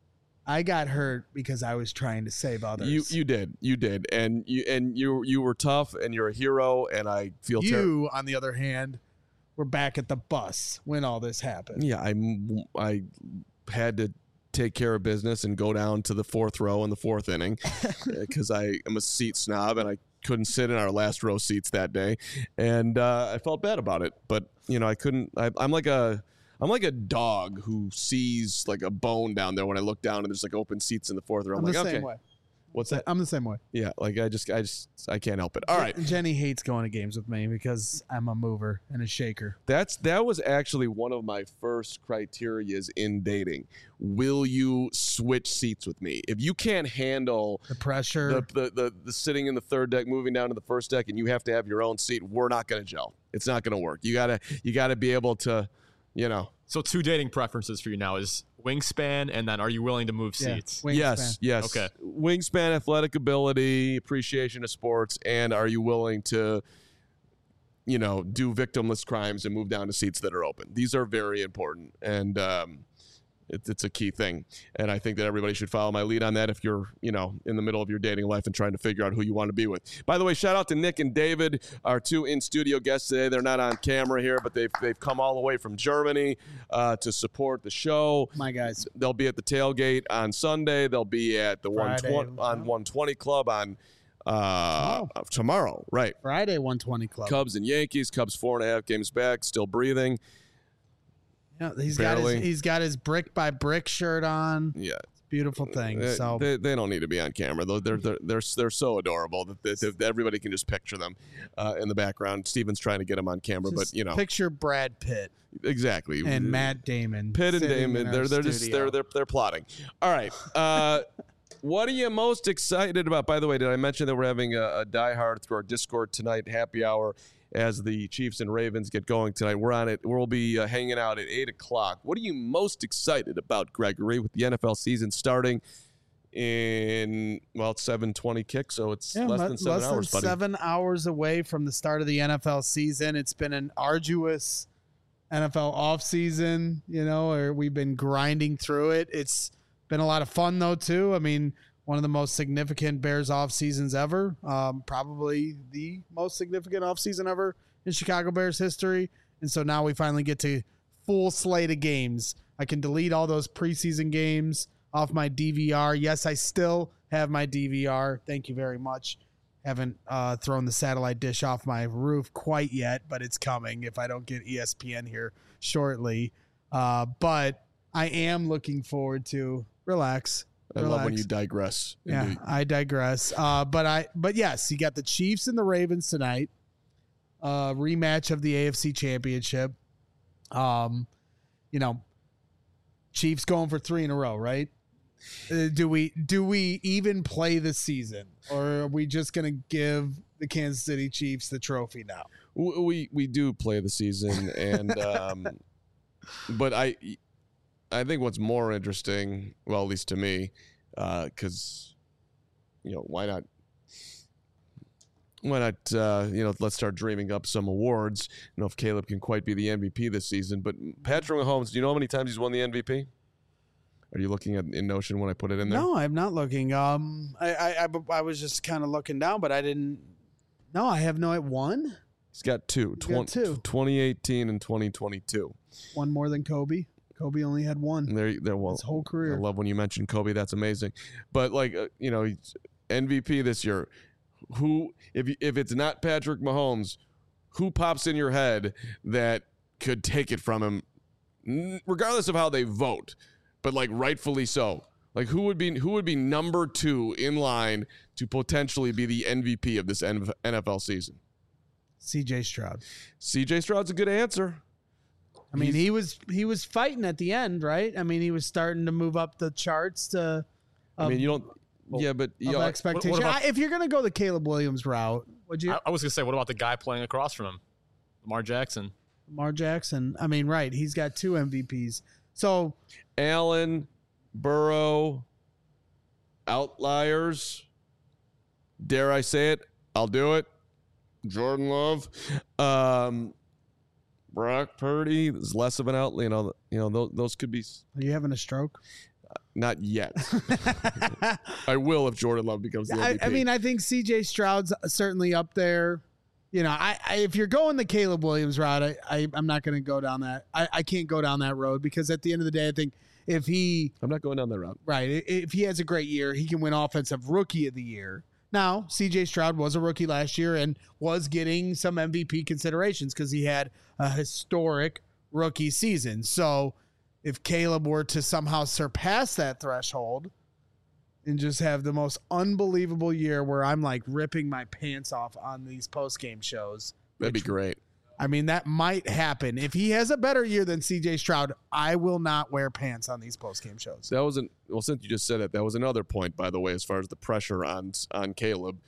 I got hurt because I was trying to save others. You you did. You did. And you and you you were tough and you're a hero and I feel You, terrible. on the other hand, were back at the bus when all this happened. Yeah, I I had to take care of business and go down to the fourth row in the fourth inning because I am a seat snob and I couldn't sit in our last row seats that day, and uh, I felt bad about it. But you know, I couldn't. I, I'm like a I'm like a dog who sees like a bone down there when I look down and there's like open seats in the fourth row. I'm, I'm like, the okay, same way. what's that? I'm the same way. Yeah, like I just I just I can't help it. All right. Jenny hates going to games with me because I'm a mover and a shaker. That's that was actually one of my first criterias in dating. Will you switch seats with me? If you can't handle The pressure. the the, the, the sitting in the third deck, moving down to the first deck, and you have to have your own seat, we're not going to gel. It's not going to work. You gotta you gotta be able to, you know. So two dating preferences for you now is wingspan, and then are you willing to move Yeah, seats? wingspan. Yes, yes. Okay. Wingspan, athletic ability, appreciation of sports, and are you willing to, you know, do victimless crimes and move down to seats that are open? These are very important, and um, it, it's a key thing. And I think that everybody should follow my lead on that if you're, you know, in the middle of your dating life and trying to figure out who you want to be with. By the way, shout out to Nick and David, our two in-studio guests today. They're not on camera here, but they've they've come all the way from Germany uh, to support the show. My guys. They'll be at the tailgate on Sunday. They'll be at the one Friday. twenty on one twenty Club on uh, tomorrow. tomorrow. Right. Friday one twenty Club. Cubs and Yankees. Cubs four and a half games back, still breathing. Yeah, he's got his Barely. he's got his brick by brick shirt on. Yeah. Beautiful thing. They, So they, they don't need to be on camera though. They're they're they're, they're so adorable that, they, that everybody can just picture them uh, in the background. Steven's trying to get them on camera, but just you know picture Brad Pitt exactly. and Matt Damon. Pitt and sitting in Damon, our they're they're just studio. they're they're they're plotting. All right. Uh, what are you most excited about? By the way, did I mention that we're having a, a Die Hard through our Discord tonight, happy hour as the Chiefs and Ravens get going tonight. We're on it. We'll be uh, hanging out at eight o'clock. What are you most excited about, Gregory, with the N F L season starting in, well, it's seven twenty kick, so it's yeah, less le- than seven less hours, than buddy. seven hours away from the start of the N F L season. It's been an arduous N F L offseason, you know, or we've been grinding through it. It's been a lot of fun, though, too. I mean, one of the most significant Bears off seasons ever, um, probably the most significant off season ever in Chicago Bears history. And so now we finally get to full slate of games. I can delete all those preseason games off my D V R. Yes, I still have my D V R. Thank you very much. Haven't uh, thrown the satellite dish off my roof quite yet, but it's coming if I don't get E S P N here shortly. Uh, but I am looking forward to relax. I relax. love when you digress. Yeah, Indeed. I digress. Uh, but I, but yes, you got the Chiefs and the Ravens tonight. Uh, rematch of the A F C Championship. Um, you know, Chiefs going for three in a row, right? Uh, do we do we even play this season, or are we just going to give the Kansas City Chiefs the trophy now? W- We we do play the season, and um, but I I think what's more interesting, well, at least to me, because uh, you know, why not? Why not? Uh, you know, let's start dreaming up some awards. I don't know if Caleb can quite be the M V P this season, but Patrick Mahomes, do you know how many times he's won the M V P? Are you looking at in Notion when I put it in there? No, I'm not looking. Um, I I, I, I was just kind of looking down, but I didn't. No, I have no. It one. He's got two. He's got two. twenty eighteen and twenty twenty-two. One more than Kobe. Kobe only had one. And there, there. Well, his whole career. I love when you mention Kobe. That's amazing. But like, uh, you know, he's M V P this year. Who, if you, if it's not Patrick Mahomes, who pops in your head that could take it from him, regardless of how they vote, but like rightfully so? Like who would be who would be number two in line to potentially be the M V P of this N F L season? C J Stroud. C J Stroud's a good answer. I mean, He's- he was he was fighting at the end, right? I mean, he was starting to move up the charts to. I mean, you don't. Yeah, but you of know, expectation. what about- I- if you're gonna go the Caleb Williams route, would you? I, I was gonna say, what about the guy playing across from him, Lamar Jackson? Lamar Jackson. I mean, right? He's got two M V Ps. So Allen, Burrow, outliers. Dare I say it? I'll do it. Jordan Love, um, Brock Purdy is less of an outlier. You know, you know those, those could be are you having a stroke? not yet. I will if Jordan Love becomes the I, M V P. I mean, I think C J Stroud's certainly up there. You know, I, I if you're going the Caleb Williams route, I, I I'm not going to go down that. I, I can't go down that road because at the end of the day, I think if he I'm not going down that route. right, i- if he has a great year, he can win Offensive Rookie of the Year. Now, C J Stroud was a rookie last year and was getting some M V P considerations because he had a historic rookie season. So if Caleb were to somehow surpass that threshold and just have the most unbelievable year where I'm like ripping my pants off on these post-game shows, That'd be great. I mean, that might happen. If he has a better year than C J Stroud, I will not wear pants on these post-game shows. That was an well. Since you just said it, that was another point, by the way, as far as the pressure on on Caleb.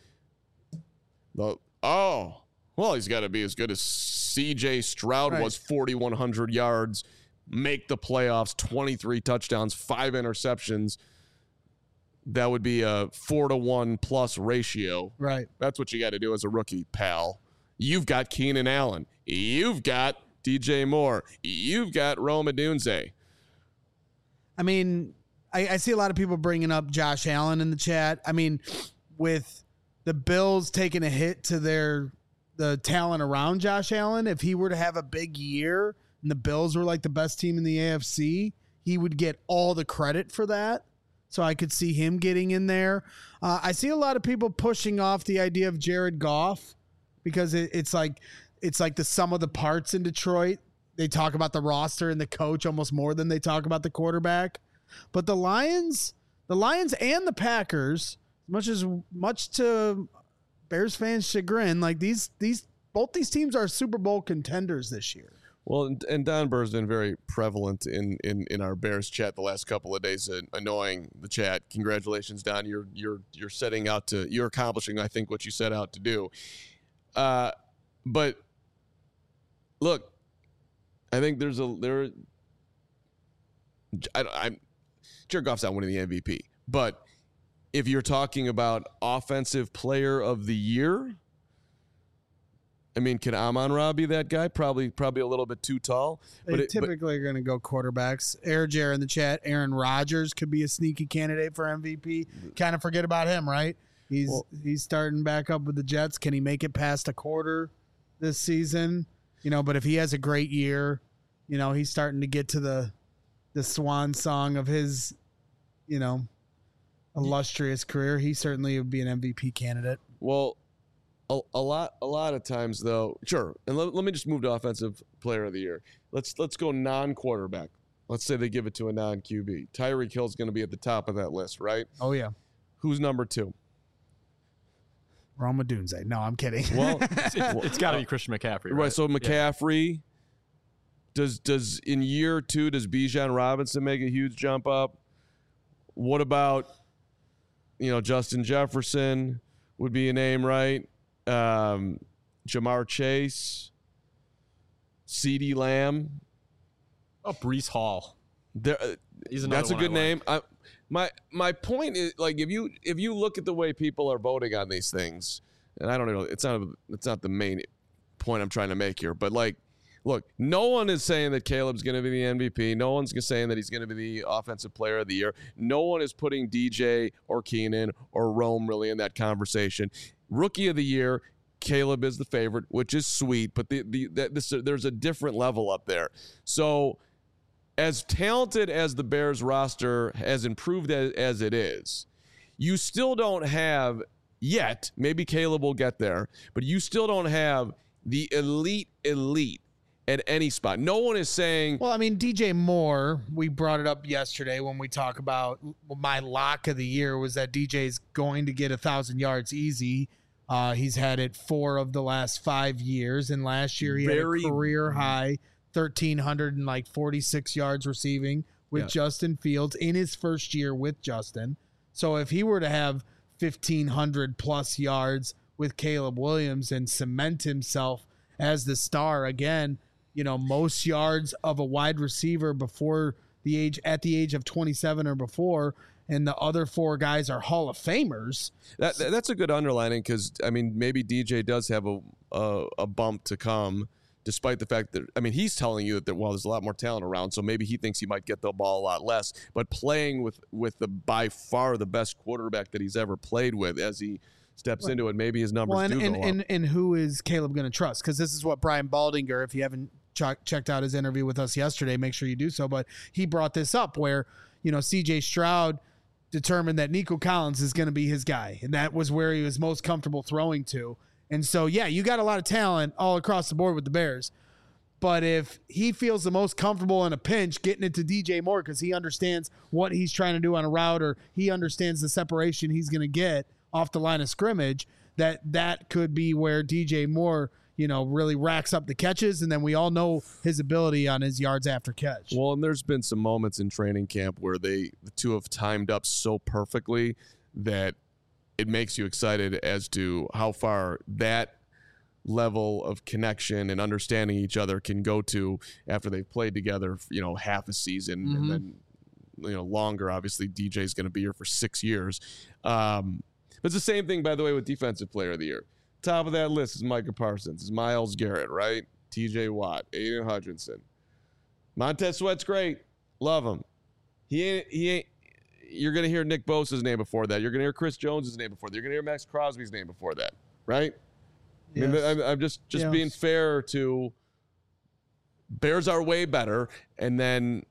The oh well, he's got to be as good as C J Stroud Right. was. forty-one hundred yards, make the playoffs, twenty-three touchdowns, five interceptions. That would be a four to one plus ratio. Right. That's what you got to do as a rookie, pal. You've got Keenan Allen. You've got D J Moore. You've got Rome Odunze. I mean, I, I see a lot of people bringing up Josh Allen in the chat. I mean, with the Bills taking a hit to their the talent around Josh Allen, if he were to have a big year and the Bills were like the best team in the A F C, he would get all the credit for that. So I could see him getting in there. Uh, I see a lot of people pushing off the idea of Jared Goff because it, it's like it's like the sum of the parts in Detroit. They talk about the roster and the coach almost more than they talk about the quarterback. But the Lions, the Lions and the Packers, much as much to Bears fans' chagrin, like these these both these teams are Super Bowl contenders this year. Well, and, and Don Burr's been very prevalent in, in, in our Bears chat the last couple of days, uh, annoying the chat. Congratulations, Don. You're you're you're setting out to you're accomplishing, I think, what you set out to do. Uh, but look, I think there's a there. I, I'm Jared Goff's not winning the M V P, but if you're talking about offensive player of the year, I mean, can Amon-Ra be that guy? Probably, probably a little bit too tall. They But it, typically but, are going to go quarterbacks. Air Jer in the chat. Aaron Rodgers could be a sneaky candidate for M V P. Kind of forget about him, right? He's Well- he's starting back up with the Jets. Can he make it past a quarter this season? You know, but if he has a great year, you know, he's starting to get to the the swan song of his, you know, illustrious career. He certainly would be an M V P candidate. well, a, a lot, a lot of times though. Sure, and let, let me just move to offensive player of the year. Let's let's go non-quarterback. Let's say they give it to a non-Q B. Tyreek Hill's going to be at the top of that list, right? Oh yeah, Who's number two? Roma Dunze. No, I'm kidding. Well, It's, it's, it's got to be Christian McCaffrey, right? right. So Yeah. McCaffrey. Does does in year two does Bijan Robinson make a huge jump up? What about, you know, Justin Jefferson would be a name, right? Um, Jamar Chase, CeeDee Lamb. Oh, Brees Hall. There, uh, He's another that's a one I good like. name. I, my my point is, like, if you if you look at the way people are voting on these things, and I don't know, it's not a, it's not the main point I'm trying to make here, but like, look, no one is saying that Caleb's going to be the M V P. No one's saying that he's going to be the offensive player of the year. No one is putting D J or Keenan or Rome really in that conversation. Rookie of the year, Caleb is the favorite, which is sweet, but the the that this, there's a different level up there. So, as talented as the Bears roster has improved as, as it is, you still don't have yet, maybe Caleb will get there, but you still don't have the elite elite at any spot. No one is saying, Well, I mean, D J Moore, we brought it up yesterday when we talk about my lock of the year was that D J's going to get a thousand yards easy. Uh, he's had it four of the last five years, and last year he Very- had a career high thirteen hundred and like forty-six yards receiving with Yeah. Justin Fields in his first year with Justin. So if he were to have fifteen hundred plus yards with Caleb Williams and cement himself as the star again, you know, most yards of a wide receiver before the age at the age of twenty-seven or before, and the other four guys are Hall of Famers. that, that- that's a good underlining because, I mean, maybe D J does have a, a a bump to come, despite the fact that, I mean, he's telling you that, there, well, there's a lot more talent around, so maybe he thinks he might get the ball a lot less. But playing with, with the by far the best quarterback that he's ever played with as he steps Right. into it, maybe his numbers Well, and do and, go up. and and who is Caleb going to trust? Because this is what Brian Baldinger, if you haven't ch- checked out his interview with us yesterday, make sure you do so. But he brought this up where, you know, C J Stroud determined that Nico Collins is going to be his guy, and that was where he was most comfortable throwing to. And so, yeah, you got a lot of talent all across the board with the Bears. But if he feels the most comfortable in a pinch getting it to D J Moore because he understands what he's trying to do on a route, or he understands the separation he's going to get off the line of scrimmage, that that could be where D J Moore, you know, really racks up the catches, and then we all know his ability on his yards after catch. Well, and there's been some moments in training camp where they the two have timed up so perfectly that it makes you excited as to how far that level of connection and understanding each other can go to after they've played together, you know, half a season Mhm. and then, you know, longer. Obviously, D J's going to be here for six years. Um, but it's the same thing, by the way, with Defensive Player of the Year. Top of that list is Micah Parsons, is Myles Garrett, right? T J Watt, Aiden Hutchinson. Montez Sweat's great. Love him. He ain't, he ain't, you're going to hear Nick Bosa's name before that. You're going to hear Chris Jones's name before that. You're going to hear Max Crosby's name before that, right? I mean, Yes. I'm, I'm just just Yes. being fair to Bears are way better, and then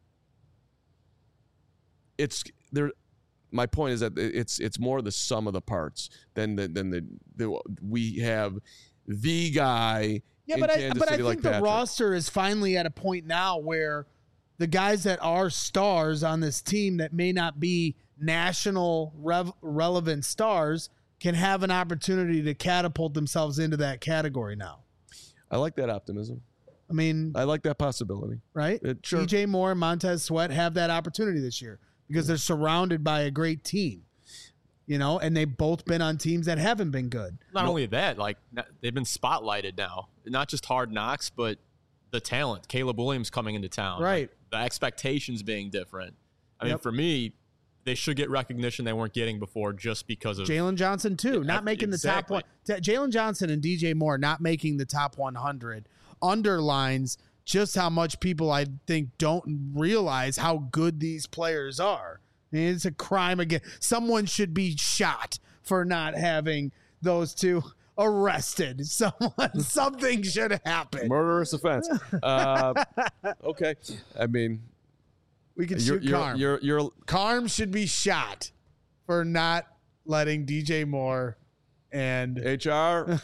it's there. My point is that it's it's more the sum of the parts than the than the, the we have the guy. Yeah, in but I Kansas but I City think like the Patrick. roster is finally at a point now where the guys that are stars on this team that may not be national rev- relevant stars can have an opportunity to catapult themselves into that category now. I like that optimism. I mean, I like that possibility. right? It- sure. D J Moore and Montez Sweat have that opportunity this year because they're surrounded by a great team, you know, and they've both been on teams that haven't been good. Not only that, like n- they've been spotlighted now. Not just Hard Knocks, but the talent. Caleb Williams coming into town. Right. The expectations being different. I mean, Yep. for me, they should get recognition they weren't getting before just because of Jalen Johnson too, not Yeah, making the top exactly. one. T- Jalen Johnson and D J Moore not making the top one hundred underlines just how much people I think don't realize how good these players are. I mean, it's a crime again. Someone should be shot for not having those two arrested. Someone, something should happen. Murderous offense. Uh, okay. I mean, We can you're, shoot you're, Carm. you're, you're, Carm should be shot for not letting D J Moore and H R.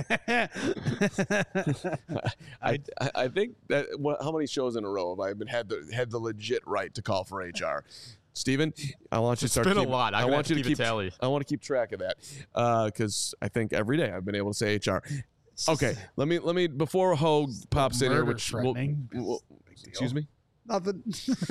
I, I I think that what, how many shows in a row have I been had the had the legit right to call for H R? Steven, I want you to start. been a keep, lot. I'm I gonna want have you to to keep a tally. I want to keep track of that because I think every day I've been able to say H R. Okay, let me let me before Hogue pops in here, murder which will, threatening. will- excuse me. nothing.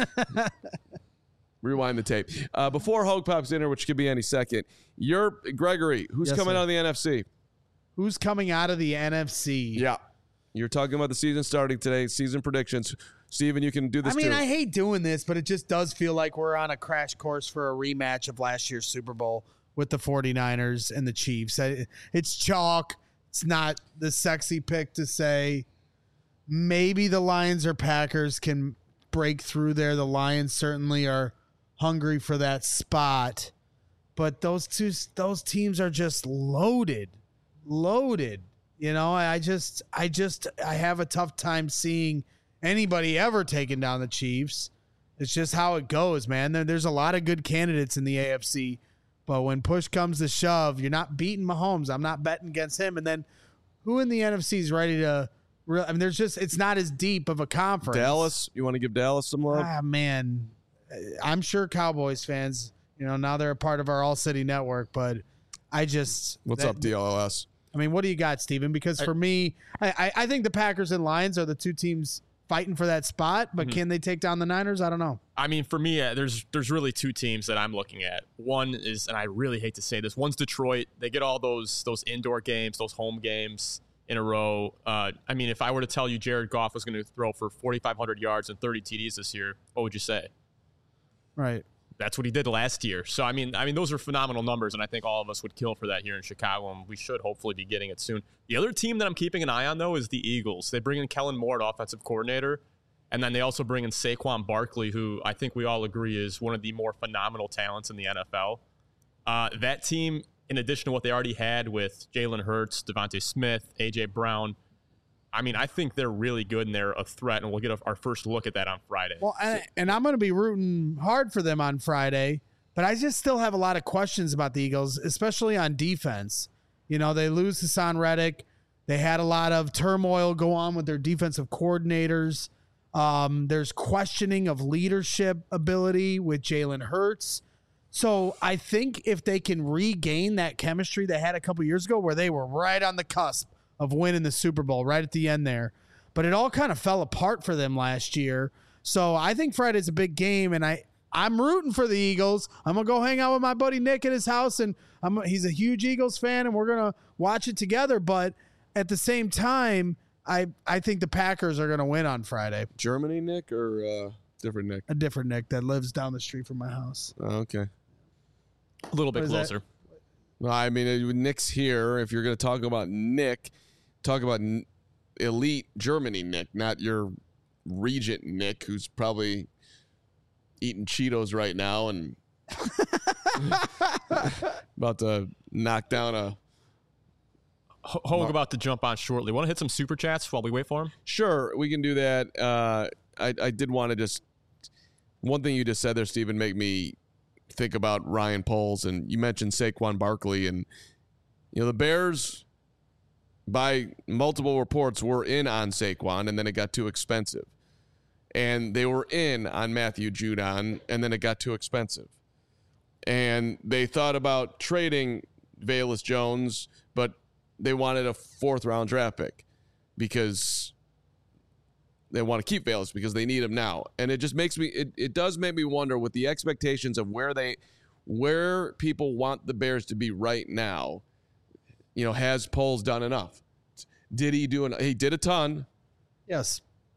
Rewind the tape. Uh, before Hogue pops in here, which could be any second, you're Gregory. Who's Yes, coming sir. out of the N F C? Who's coming out of the N F C? Yeah. You're talking about the season starting today, season predictions. Steven, you can do this I mean, too. I hate doing this, but it just does feel like we're on a crash course for a rematch of last year's Super Bowl with the 49ers and the Chiefs. I- It's chalk. It's not the sexy pick to say maybe the Lions or Packers can break through there. The Lions certainly are hungry for that spot, but those two those teams are just loaded, loaded. You know, I just I just I have a tough time seeing anybody ever taking down the Chiefs. It's just how it goes, man. There, there's a lot of good candidates in the A F C, but when push comes to shove, you're not beating Mahomes. I'm not betting against him. And then who in the N F C is ready to? Re- I mean, there's just it's not as deep of a conference. Dallas, you want to give Dallas some love? Ah, man, I'm sure Cowboys fans, you know, now they're a part of our All City Network, but I just What's that- up, D L L S? I mean, what do you got, Steven? Because for me, I, I, I think the Packers and Lions are the two teams fighting for that spot, but Mm-hmm. can they take down the Niners? I don't know. I mean, for me, uh, there's there's really two teams that I'm looking at. One is, and I really hate to say this, one's Detroit. They get all those those indoor games, those home games in a row. Uh, I mean, if I were to tell you Jared Goff was going to throw for forty-five hundred yards and thirty T Ds this year, what would you say? Right. That's what he did last year. So I mean, I mean, those are phenomenal numbers, and I think all of us would kill for that here in Chicago, and we should hopefully be getting it soon. The other team that I'm keeping an eye on, though, is the Eagles. They bring in Kellen Moore, offensive coordinator, and then they also bring in Saquon Barkley, who I think we all agree is one of the more phenomenal talents in the N F L. Uh, that team, in addition to what they already had with Jalen Hurts, Devontae Smith, A J Brown, I mean, I think they're really good and they're a threat, and we'll get a, our first look at that on Friday. Well, and, and I'm going to be rooting hard for them on Friday, but I just still have a lot of questions about the Eagles, especially on defense. You know, they lose Hassan Reddick. They had a lot of turmoil go on with their defensive coordinators. Um, there's questioning of leadership ability with Jalen Hurts. So I think if they can regain that chemistry they had a couple years ago where they were right on the cusp of winning the Super Bowl right at the end there, but it all kind of fell apart for them last year. So I think Friday's a big game, and I, I'm rooting for the Eagles. I'm going to go hang out with my buddy Nick at his house, and I'm, he's a huge Eagles fan, and we're going to watch it together. But at the same time, I, I think the Packers are going to win on Friday. Germany, Nick, or uh, different Nick? A different Nick that lives down the street from my house. Oh, okay. a little bit What is that? closer. Well, I mean, uh, Nick's here. If you're going to talk about Nick, talk about n- elite Germany Nick, not your regent Nick, who's probably eating Cheetos right now and about to knock down a. Ho- Hogue about to jump on shortly. Want to hit some super chats while we wait for him? Sure, we can do that. Uh, I, I did want to just one thing you just said there, Stephen, make me think about Ryan Poles, and you mentioned Saquon Barkley, and you know the Bears, by multiple reports, were in on Saquon, and then it got too expensive, and they were in on Matthew Judon, and then it got too expensive, and they thought about trading Velus Jones, but they wanted a fourth round draft pick because they want to keep Velus because they need him now. And it just makes me, it, it does make me wonder with the expectations of where they, where people want the Bears to be right now. You know, has Poles done enough? Did he do an, he did a ton. Yes.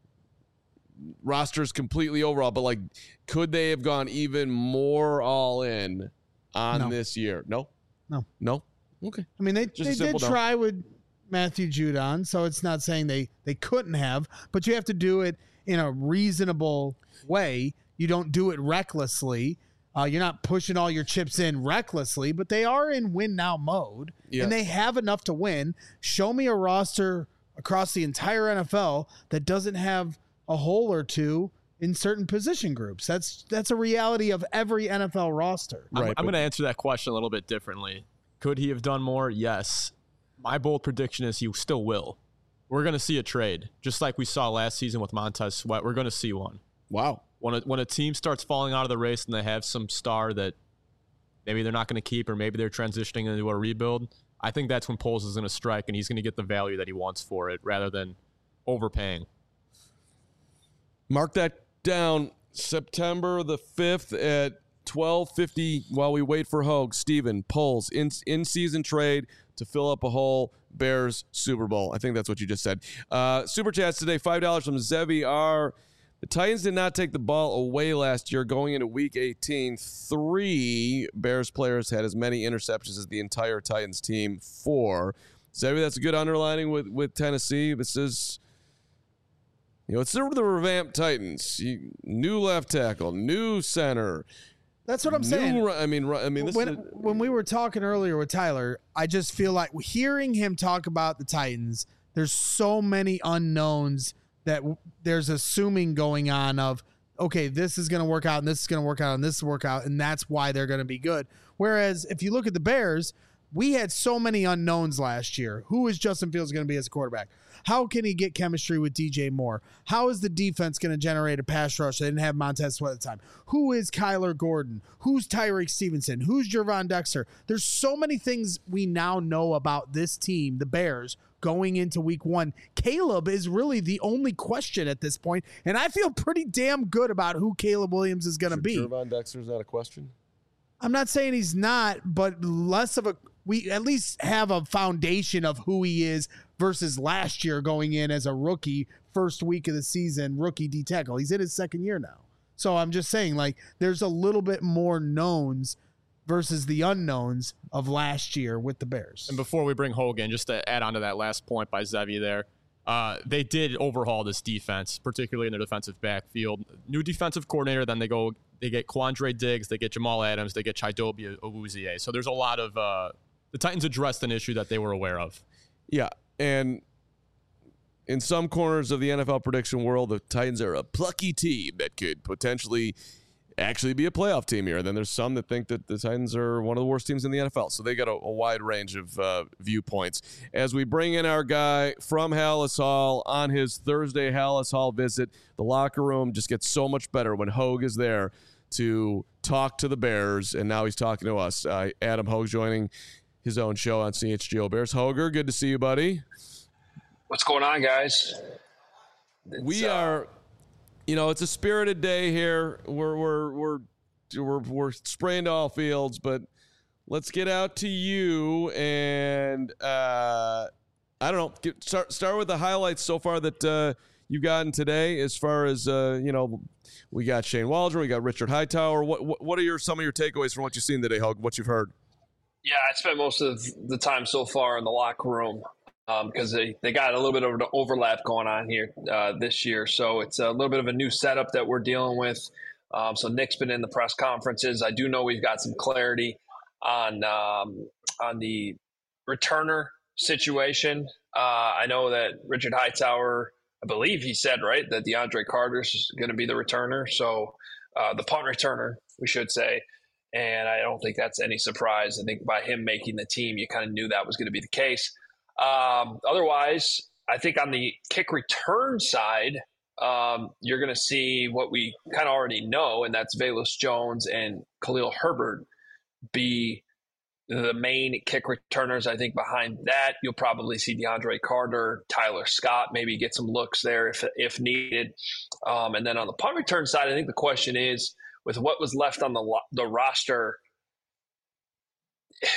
rosters completely overall, but like, could they have gone even more all in on No. this year? No, No. no. Okay. I mean, they, Just a they did simple no. try with Matthew Judon, so it's not saying they, they couldn't have, but you have to do it in a reasonable way. You don't do it recklessly. Uh, you're not pushing all your chips in recklessly, but they are in win-now mode, Yes. and they have enough to win. Show me a roster across the entire N F L that doesn't have a hole or two in certain position groups. That's that's a reality of every N F L roster. I'm, Right, I'm but- going to answer that question a little bit differently. Could he have done more? Yes. My bold prediction is he still will. We're going to see a trade, just like we saw last season with Montez Sweat. We're going to see one. Wow. When a, when a team starts falling out of the race and they have some star that maybe they're not going to keep, or maybe they're transitioning into a rebuild, I think that's when Poles is going to strike and he's going to get the value that he wants for it rather than overpaying. Mark that down. September the fifth at twelve fifty while we wait for Hogue. Steven, Poles, in, in-season trade to fill up a hole. Bears, Super Bowl. I think that's what you just said. Uh, Super Chats today, five dollars from Zevi R. The Titans did not take the ball away last year going into week eighteen. Three Bears players had as many interceptions as the entire Titans team. Four. Zevi, that's a good underlining with, with Tennessee. This is... You know, it's the, the revamped Titans. You, new left tackle, new center. That's what I'm new, saying. ru- I mean, ru- I mean, this when is a, when we were talking earlier with Tyler, I just feel like hearing him talk about the Titans, there's so many unknowns that w- there's assuming going on of, okay, this is going to work out and this is going to work out and this will work out, and that's why they're going to be good. Whereas if you look at the Bears, we had so many unknowns last year. Who is Justin Fields going to be as a quarterback? How can he get chemistry with D J Moore? How is the defense going to generate a pass rush? They didn't have Montez Sweat at the time. Who is Kyler Gordon? Who's Tyreek Stevenson? Who's Jervon Dexter? There's so many things we now know about this team, the Bears, going into week one. Caleb is really the only question at this point, and I feel pretty damn good about who Caleb Williams is going to be. Jervon Dexter's not a question. I'm not saying he's not, but less of a we at least have a foundation of who he is versus last year going in as a rookie, first week of the season, rookie D tackle. He's in his second year now. So I'm just saying, like, there's a little bit more knowns versus the unknowns of last year with the Bears. And before we bring Hogan, just to add on to that last point by Zevi there, uh, they did overhaul this defense, particularly in their defensive backfield. New defensive coordinator, then they go, they get Quandre Diggs, they get Jamal Adams, they get Chidobe Awuzie. So there's a lot of, uh, the Titans addressed an issue that they were aware of. Yeah, and in some corners of the N F L prediction world, the Titans are a plucky team that could potentially actually be a playoff team here. Then there's some that think that the Titans are one of the worst teams in the N F L. So they got a, a wide range of uh, viewpoints. As we bring in our guy from Hallis Hall on his Thursday Hallis Hall visit, the locker room just gets so much better when Hogue is there to talk to the Bears, and now he's talking to us. Uh, Adam Hogue joining his own show on C H G O Bears. Hoger, good to see you, buddy. What's going on, guys? It's, we uh, are, you know, it's a spirited day here. We're we're we're we're we're spraying to all fields, but let's get out to you and uh, I don't know. Get, start start with the highlights so far that uh, you've gotten today. As far as uh, you know, we got Shane Waldron, we got Richard Hightower. What what, what are your some of your takeaways from what you've seen today, Hogue? What you've heard? Yeah, I spent most of the time so far in the locker room because um, they, they got a little bit of an overlap going on here uh, this year. So it's a little bit of a new setup that we're dealing with. Um, so Nick's been in the press conferences. I do know we've got some clarity on um, on the returner situation. Uh, I know that Richard Hightower, I believe he said, right, that DeAndre Carter's going to be the returner. So uh, the punt returner, we should say. And I don't think that's any surprise. I think by him making the team, you kind of knew that was going to be the case. Um, otherwise, I think on the kick return side, um, you're going to see what we kind of already know, and that's Velus Jones and Khalil Herbert be the main kick returners. I think behind that, you'll probably see DeAndre Carter, Tyler Scott, maybe get some looks there if if needed. Um, and then on the punt return side, I think the question is, with what was left on the the roster,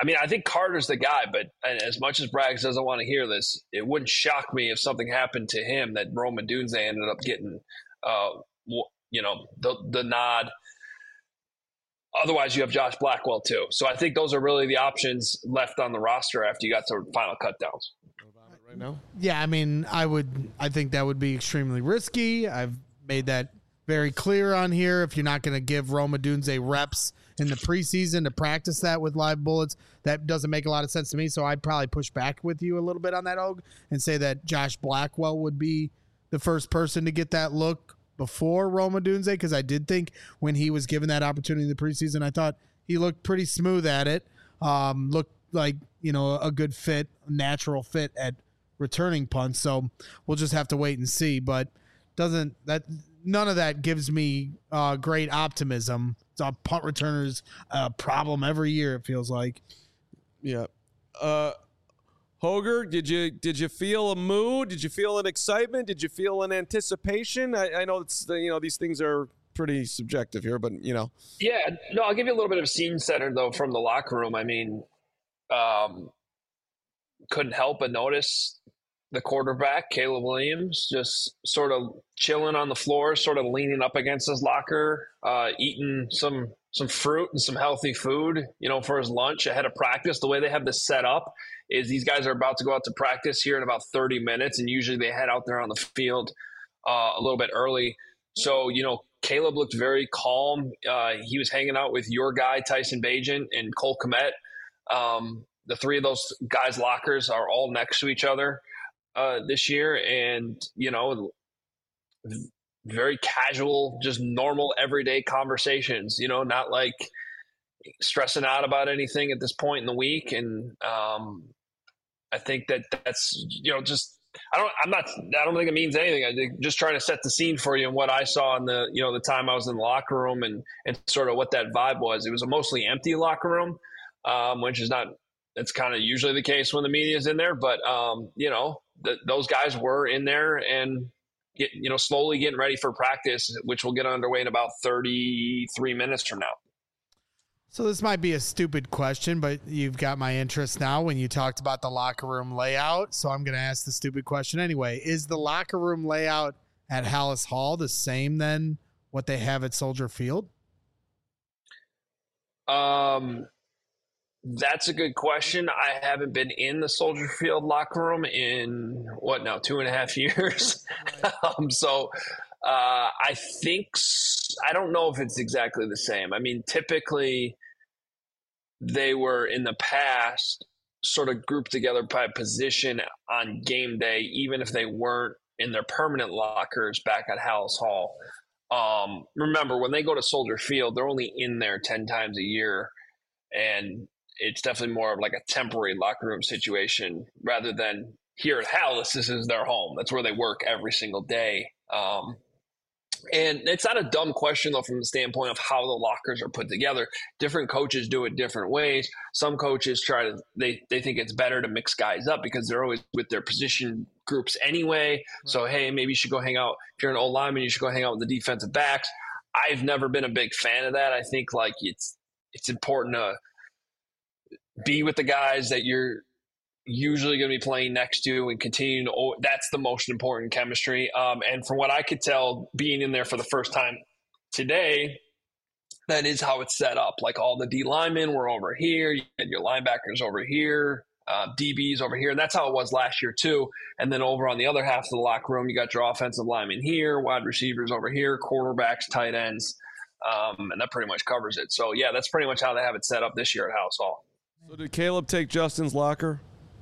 I mean, I think Carter's the guy, but as much as Braggs doesn't want to hear this, it wouldn't shock me if something happened to him that Rome Odunze ended up getting, uh, you know, the the nod. Otherwise, you have Josh Blackwell too. So I think those are really the options left on the roster after you got to final cut downs. Right now? Yeah, I mean, I would. I think that would be extremely risky. I've made that very clear on here. If you're not going to give Rome Odunze reps in the preseason to practice that with live bullets, that doesn't make a lot of sense to me. So I'd probably push back with you a little bit on that, Og, and say that Josh Blackwell would be the first person to get that look before Rome Odunze, because I did think when he was given that opportunity in the preseason, I thought he looked pretty smooth at it. Um, looked like, you know, a good fit, natural fit at returning punts. So we'll just have to wait and see. But doesn't that none of that gives me uh, great optimism. It's a punt returner's uh, problem every year, it feels like. Yeah. Uh, Hoger, did you did you feel a mood? Did you feel an excitement? Did you feel an anticipation? I, I know it's you know these things are pretty subjective here, but you know. Yeah, no, I'll give you a little bit of a scene setter though from the locker room. I mean, um, couldn't help but notice the quarterback, Caleb Williams, just sort of chilling on the floor, sort of leaning up against his locker, uh, eating some some fruit and some healthy food, you know, for his lunch ahead of practice. The way they have this set up is these guys are about to go out to practice here in about thirty minutes, and usually they head out there on the field uh, a little bit early. So, you know, Caleb looked very calm. Uh, he was hanging out with your guy, Tyson Bagent, and Cole Kmet. Um, the three of those guys' lockers are all next to each other uh, this year. And, you know, very casual, just normal, everyday conversations, you know, not like stressing out about anything at this point in the week. And um, I think that that's, you know, just, I don't, I'm not, I don't think it means anything. I think just trying to set the scene for you and what I saw in the, you know, the time I was in the locker room and, and sort of what that vibe was. It was a mostly empty locker room, um, which is not, it's kind of usually the case when the media is in there, but um, you know, th- those guys were in there and, get, you know, slowly getting ready for practice, which will get underway in about thirty-three minutes from now. So this might be a stupid question, but you've got my interest now when you talked about the locker room layout. So I'm going to ask the stupid question anyway. Is the locker room layout at Halas Hall the same then what they have at Soldier Field? Um, that's a good question. I haven't been in the Soldier Field locker room in what now, two and a half years. um, so uh, I think, I don't know if it's exactly the same. I mean, typically they were in the past sort of grouped together by position on game day, even if they weren't in their permanent lockers back at Halas Hall. Um, remember, when they go to Soldier Field, they're only in there ten times a year. And it's definitely more of like a temporary locker room situation rather than here at Halas, this is their home. That's where they work every single day. Um, and it's not a dumb question, though, from the standpoint of how the lockers are put together. Different coaches do it different ways. Some coaches try to, they, they think it's better to mix guys up because they're always with their position groups anyway. Right. So, hey, maybe you should go hang out. If you're an old lineman, you should go hang out with the defensive backs. I've never been a big fan of that. I think like it's, it's important to be with the guys that you're usually going to be playing next to and continue to, that's the most important chemistry. Um, and from what I could tell, being in there for the first time today, that is how it's set up. Like all the D linemen were over here, you had your linebackers over here, uh, D Bs over here. And that's how it was last year too. And then over on the other half of the locker room, you got your offensive linemen here, wide receivers over here, quarterbacks, tight ends. Um, and that pretty much covers it. So yeah, that's pretty much how they have it set up this year at Halas Hall. So did Caleb take Justin's locker?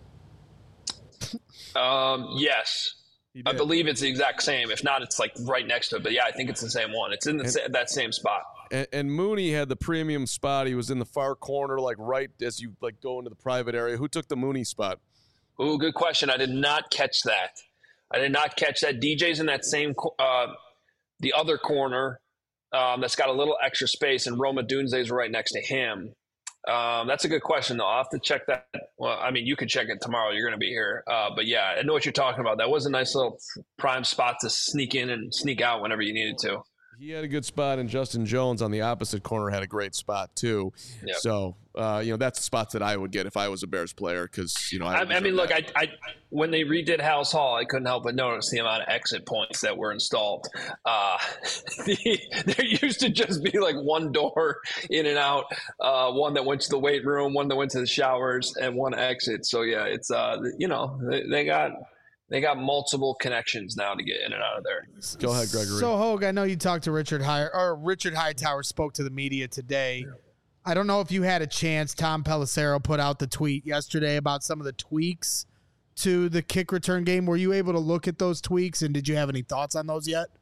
Um, yes, I believe it's the exact same. If not, it's like right next to it. But yeah, I think it's the same one. It's in the, and, that same spot. And, and Mooney had the premium spot. He was in the far corner, like right as you like go into the private area. Who took the Mooney spot? Oh, good question. I did not catch that. I did not catch that. D J's in that same, uh, the other corner um, that's got a little extra space, and Rome Odunze is right next to him. Um, that's a good question, though. I'll have to check that. Well, I mean, you could check it tomorrow. You're going to be here. Uh, but, yeah, I know what you're talking about. That was a nice little prime spot to sneak in and sneak out whenever you needed to. He had a good spot, and Justin Jones on the opposite corner had a great spot, too. Yep. So Uh, you know, that's the spots that I would get if I was a Bears player because, you know, I, I, I mean, look, I, I when they redid House Hall, I couldn't help but notice the amount of exit points that were installed. Uh, the, there used to just be like one door in and out, uh, one that went to the weight room, one that went to the showers, and one exit. So yeah, it's uh, you know, they, they got. They got multiple connections now to get in and out of there. Go ahead, Gregory. So, Hogue, I know you talked to Richard High or Richard Hightower spoke to the media today. I don't know if you had a chance. Tom Pelissero put out the tweet yesterday about some of the tweaks to the kick return game. Were you able to look at those tweaks, and did you have any thoughts on those yet?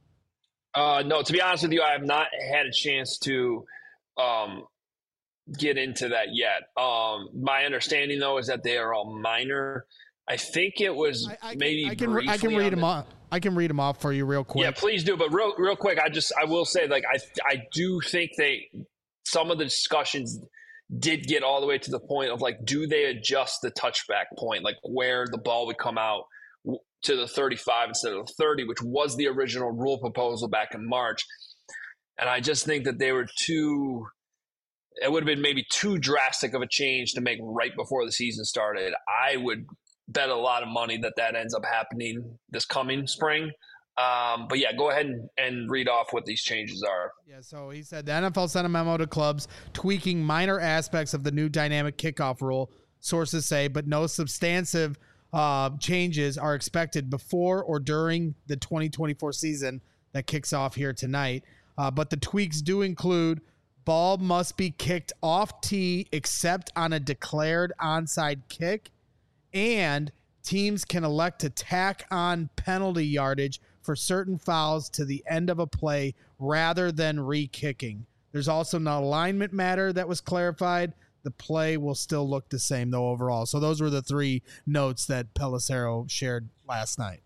Uh, no, to be honest with you, I have not had a chance to um, get into that yet. Um, my understanding, though, is that they are all minor. I think it was I, I maybe can, I can, I can read them off. I can read them off for you real quick. Yeah, please do. But real, real quick, I just I will say, like, I I do think they some of the discussions did get all the way to the point of like, do they adjust the touchback point, like where the ball would come out to the thirty-five instead of the thirty, which was the original rule proposal back in March. And I just think that they were too. It would have been maybe too drastic of a change to make right before the season started. I would bet a lot of money that that ends up happening this coming spring. Um, but yeah, go ahead and, and read off what these changes are. Yeah, so he said the N F L sent a memo to clubs tweaking minor aspects of the new dynamic kickoff rule, sources say, but no substantive uh, changes are expected before or during the twenty twenty-four season that kicks off here tonight. Uh, but the tweaks do include ball must be kicked off tee except on a declared onside kick, and teams can elect to tack on penalty yardage for certain fouls to the end of a play rather than re-kicking. There's also an alignment matter that was clarified. The play will still look the same, though, overall. So those were the three notes that Pelissero shared last night.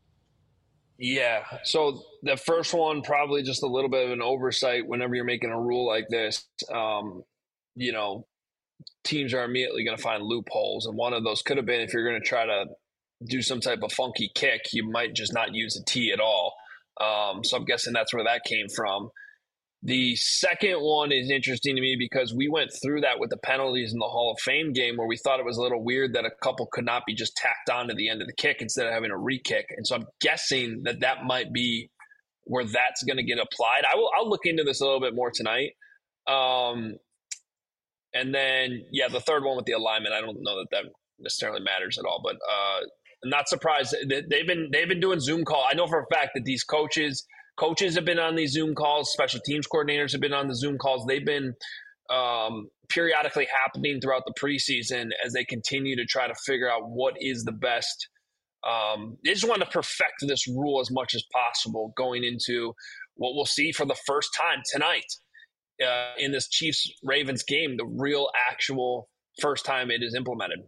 Yeah. So the first one, probably just a little bit of an oversight whenever you're making a rule like this. Um, you know, teams are immediately going to find loopholes. And one of those could have been if you're going to try to do some type of funky kick, you might just not use a tee at all. Um, so I'm guessing that's where that came from. The second one is interesting to me because we went through that with the penalties in the Hall of Fame game where we thought it was a little weird that a couple could not be just tacked on to the end of the kick instead of having a re-kick. And so I'm guessing that that might be where that's going to get applied. I will, I'll look into this a little bit more tonight. Um, and then, yeah, the third one with the alignment, I don't know that that necessarily matters at all, but uh, I'm not surprised. They've been they've been doing Zoom call. I know for a fact that these coaches coaches have been on these Zoom calls. Special teams coordinators have been on the Zoom calls. They've been um, periodically happening throughout the preseason as they continue to try to figure out what is the best. Um, they just want to perfect this rule as much as possible going into what we'll see for the first time tonight uh, in this Chiefs-Ravens game, the real actual first time it is implemented.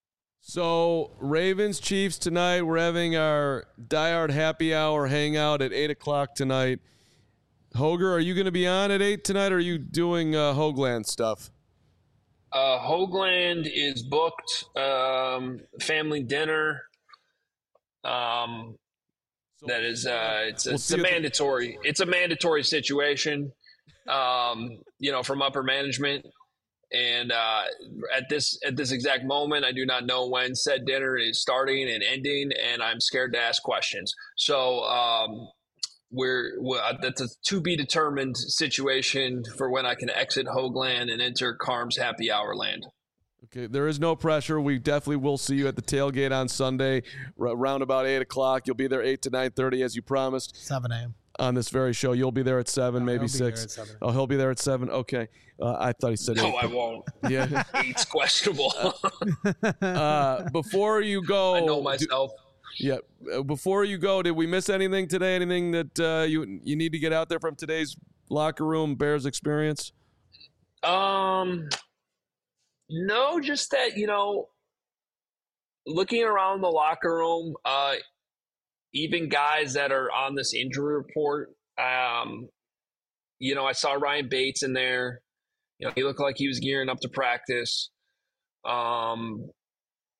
So, Ravens, Chiefs tonight. We're having our diehard happy hour hangout at eight o'clock tonight. Hoger, are you going to be on at eight tonight, or are you doing uh, Hoagland stuff? Uh, Hoagland is booked. Um, family dinner. Um, that is, uh, it's, We'll it's a mandatory. It's a mandatory situation. Um, you know, from upper management. And uh, at this at this exact moment, I do not know when said dinner is starting and ending, and I'm scared to ask questions. So um, we're, we're that's a to be determined situation for when I can exit Hoagland and enter Carm's happy hour land. Okay, there is no pressure. We definitely will see you at the tailgate on Sunday, around about eight o'clock. You'll be there eight to nine thirty as you promised. seven a.m. On this very show. You'll be there at seven, No, maybe he'll be six. there at seven. Oh, he'll be there at seven. Okay. Uh, I thought he said No, eight. I won't. Yeah. Eight's questionable. uh, before you go, I know myself. Do, yeah. Uh, before you go, did we miss anything today? Anything that uh, you you need to get out there from today's locker room Bears experience? Um, no, just that, you know, looking around the locker room, uh, even guys that are on this injury report, um, you know, I saw Ryan Bates in there. You know, he looked like he was gearing up to practice. Um,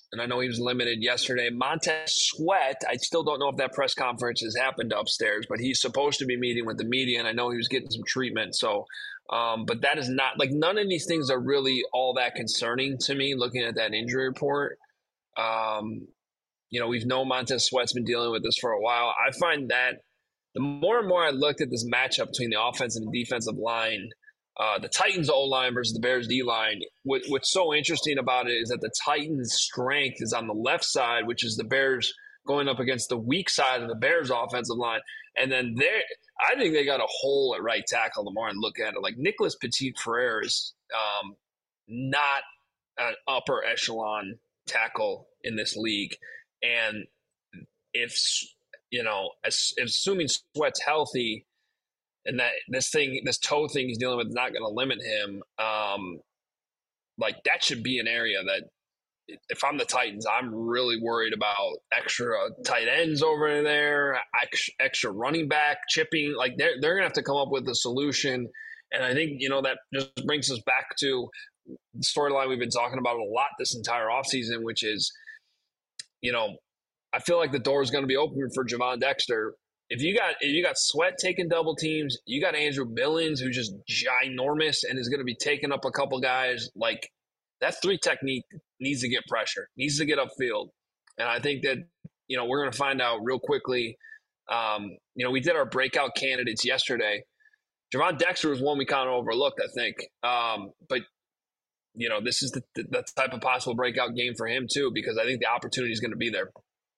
and I know he was limited yesterday. Montez Sweat, I still don't know if that press conference has happened upstairs, but he's supposed to be meeting with the media, and I know he was getting some treatment. So, um, but that is not, like, none of these things are really all that concerning to me looking at that injury report. Um, you know, we've known Montez Sweat's been dealing with this for a while. I find that the more and more I looked at this matchup between the offensive and defensive line, Uh, the Titans O-line versus the Bears D-line, what, what's so interesting about it is that the Titans' strength is on the left side, which is the Bears going up against the weak side of the Bears' offensive line. And then there, I think they got a hole at right tackle the more I look at it. Like, Nicholas Petit-Frere is um, not an upper echelon tackle in this league. And if, you know, as, assuming Sweat's healthy, and that this thing, this toe thing he's dealing with is not going to limit him. Um, like, that should be an area that, if I'm the Titans, I'm really worried about extra tight ends over there, extra running back chipping. Like, they're they're going to have to come up with a solution. And I think, you know, that just brings us back to the storyline we've been talking about a lot this entire offseason, which is, you know, I feel like the door is going to be open for Javon Dexter. If you got if you got Sweat taking double teams, you got Andrew Billings, who's just ginormous and is going to be taking up a couple guys. Like, that three technique needs to get pressure, needs to get upfield. And I think that, you know, we're going to find out real quickly. Um, you know, we did our breakout candidates yesterday. Javon Dexter was one we kind of overlooked, I think. Um, but, you know, this is the, the type of possible breakout game for him too, because I think the opportunity is going to be there.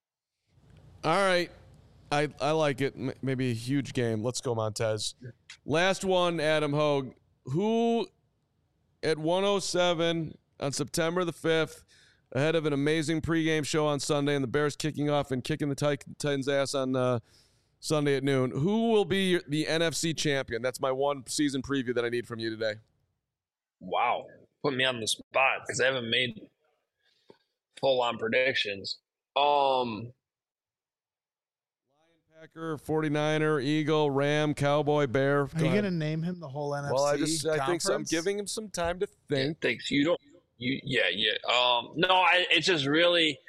All right. I, I like it. M- maybe a huge game. Let's go, Montez. Last one, Adam Hogue. Who at one oh seven on September the fifth, ahead of an amazing pregame show on Sunday and the Bears kicking off and kicking the Titans' ass on uh, Sunday at noon, who will be the N F C champion? That's my one season preview that I need from you today. Wow. Put me on the spot because I haven't made full-on predictions. Um... Packer, forty-niner, Eagle, Ram, Cowboy, Bear. Are you going to name him the whole N F C Well, I just I think so. I'm conference? giving him some time to think. Yeah, thanks. You don't. You yeah yeah. Um. No, I. It's just really.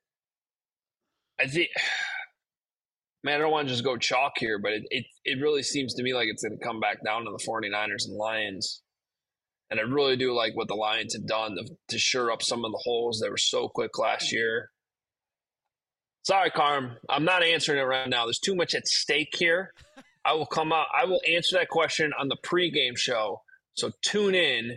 I think. Man, I don't want to just go chalk here, but it it, it really seems to me like it's going to come back down to the forty-niners and Lions. And I really do like what the Lions have done to, to shore up some of the holes that were so quick last year. Sorry, Carm. I'm not answering it right now. There's too much at stake here. I will come out. I will answer that question on the pregame show. So tune in.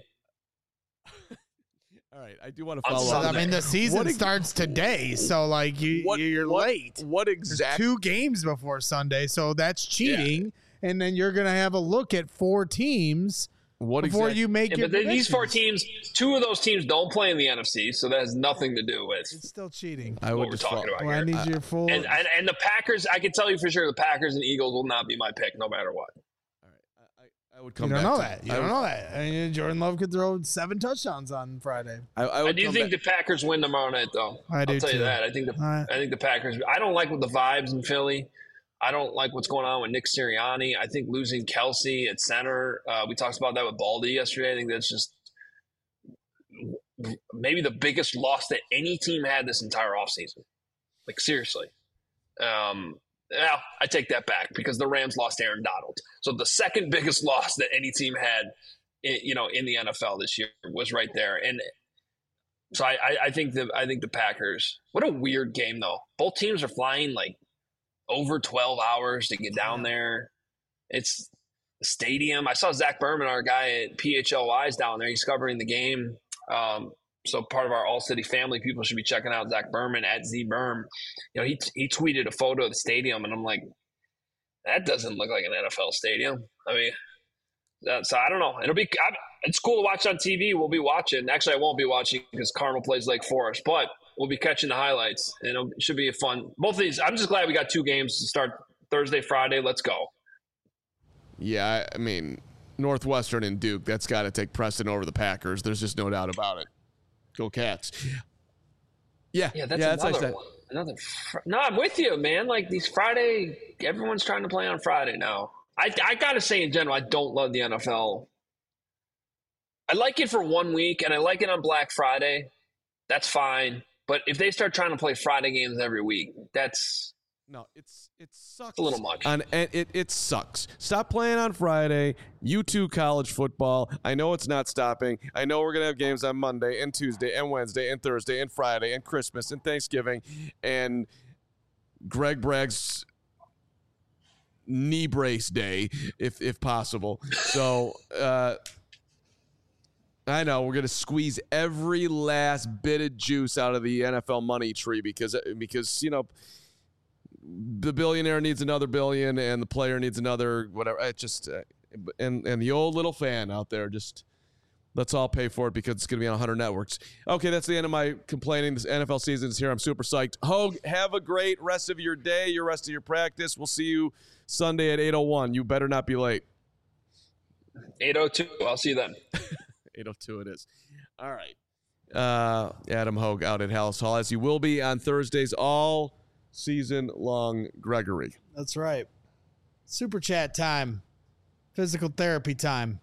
All right. I do want to follow So, up. I mean, the season What ex- starts today, so like you, What, you're what, late. What There's exactly? two games before Sunday, so that's cheating. And then you're gonna have a look at four teams What before exactly? you make Yeah, your but then these four predictions. teams, two of those teams don't play in the N F C, so that has nothing to do with It's still cheating. I what would we're just talking follow. about Well, I here. need your full. And, and and the Packers, I can tell you for sure, the Packers and Eagles will not be my pick, no matter what. All right. I, I, I would you come don't back know to that. You I don't would- know that. I mean, Jordan Love could throw seven touchdowns on Friday. I, I I would do come think back. the Packers win tomorrow night, though. I I'll do tell too. you that. I think the All right. I think the Packers. I don't like what the vibes in Philly. I don't like what's going on with Nick Sirianni. I think losing Kelsey at center. Uh, we talked about that with Baldy yesterday. I think that's just maybe the biggest loss that any team had this entire offseason. Like, seriously. Um, well, I take that back because the Rams lost Aaron Donald. So the second biggest loss that any team had, in, you know, in the N F L this year was right there. And so I, I, I think the I think the Packers. What a weird game though. Both teams are flying like over twelve hours to get down there. It's the stadium. I saw Zach Berman, our guy at P H L Y's down there. He's covering the game. Um, so part of our All City family, people should be checking out Zach Berman at Z Berm. You know, he he tweeted a photo of the stadium, and I'm like, that doesn't look like an N F L stadium. I mean, that, so I don't know. It'll be I, it's cool to watch on T V. We'll be watching. Actually, I won't be watching because Carmel plays Lake Forest, but we'll be catching the highlights, and it'll, it should be a fun. Both of these, I'm just glad we got two games to start Thursday, Friday. Let's go. Yeah, I I mean, Northwestern and Duke, that's got to take precedent over the Packers. There's just no doubt about it. Go Cats. Yeah, Yeah, that's yeah, that's another what I said. one. Another. Fr- no, I'm with you, man. Like these Friday, everyone's trying to play on Friday now. I I gotta say, in general, I don't love the N F L. I like it for one week, and I like it on Black Friday. That's fine. But if they start trying to play Friday games every week, that's No, it's it sucks. a little much. On and it it sucks. Stop playing on Friday. You two college football. I know it's not stopping. I know we're gonna have games on Monday and Tuesday and Wednesday and Thursday and Friday and Christmas and Thanksgiving and Greg Bragg's knee brace day, if if possible. So uh, I know we're gonna squeeze every last bit of juice out of the N F L money tree because because you know the billionaire needs another billion and the player needs another whatever. It just uh, and and the old little fan out there just let's all pay for it because it's gonna be on one hundred networks. Okay, that's the end of my complaining. This N F L season is here. I'm super psyched. Hogue, have a great rest of your day, your rest of your practice. We'll see you Sunday at eight oh one. You better not be late. eight oh two. I'll see you then. eight oh two it is. All right. Uh, Adam Hogue out at Hallis Hall, as he will be on Thursdays all season long, Gregory. That's right. Super chat time. Physical therapy time.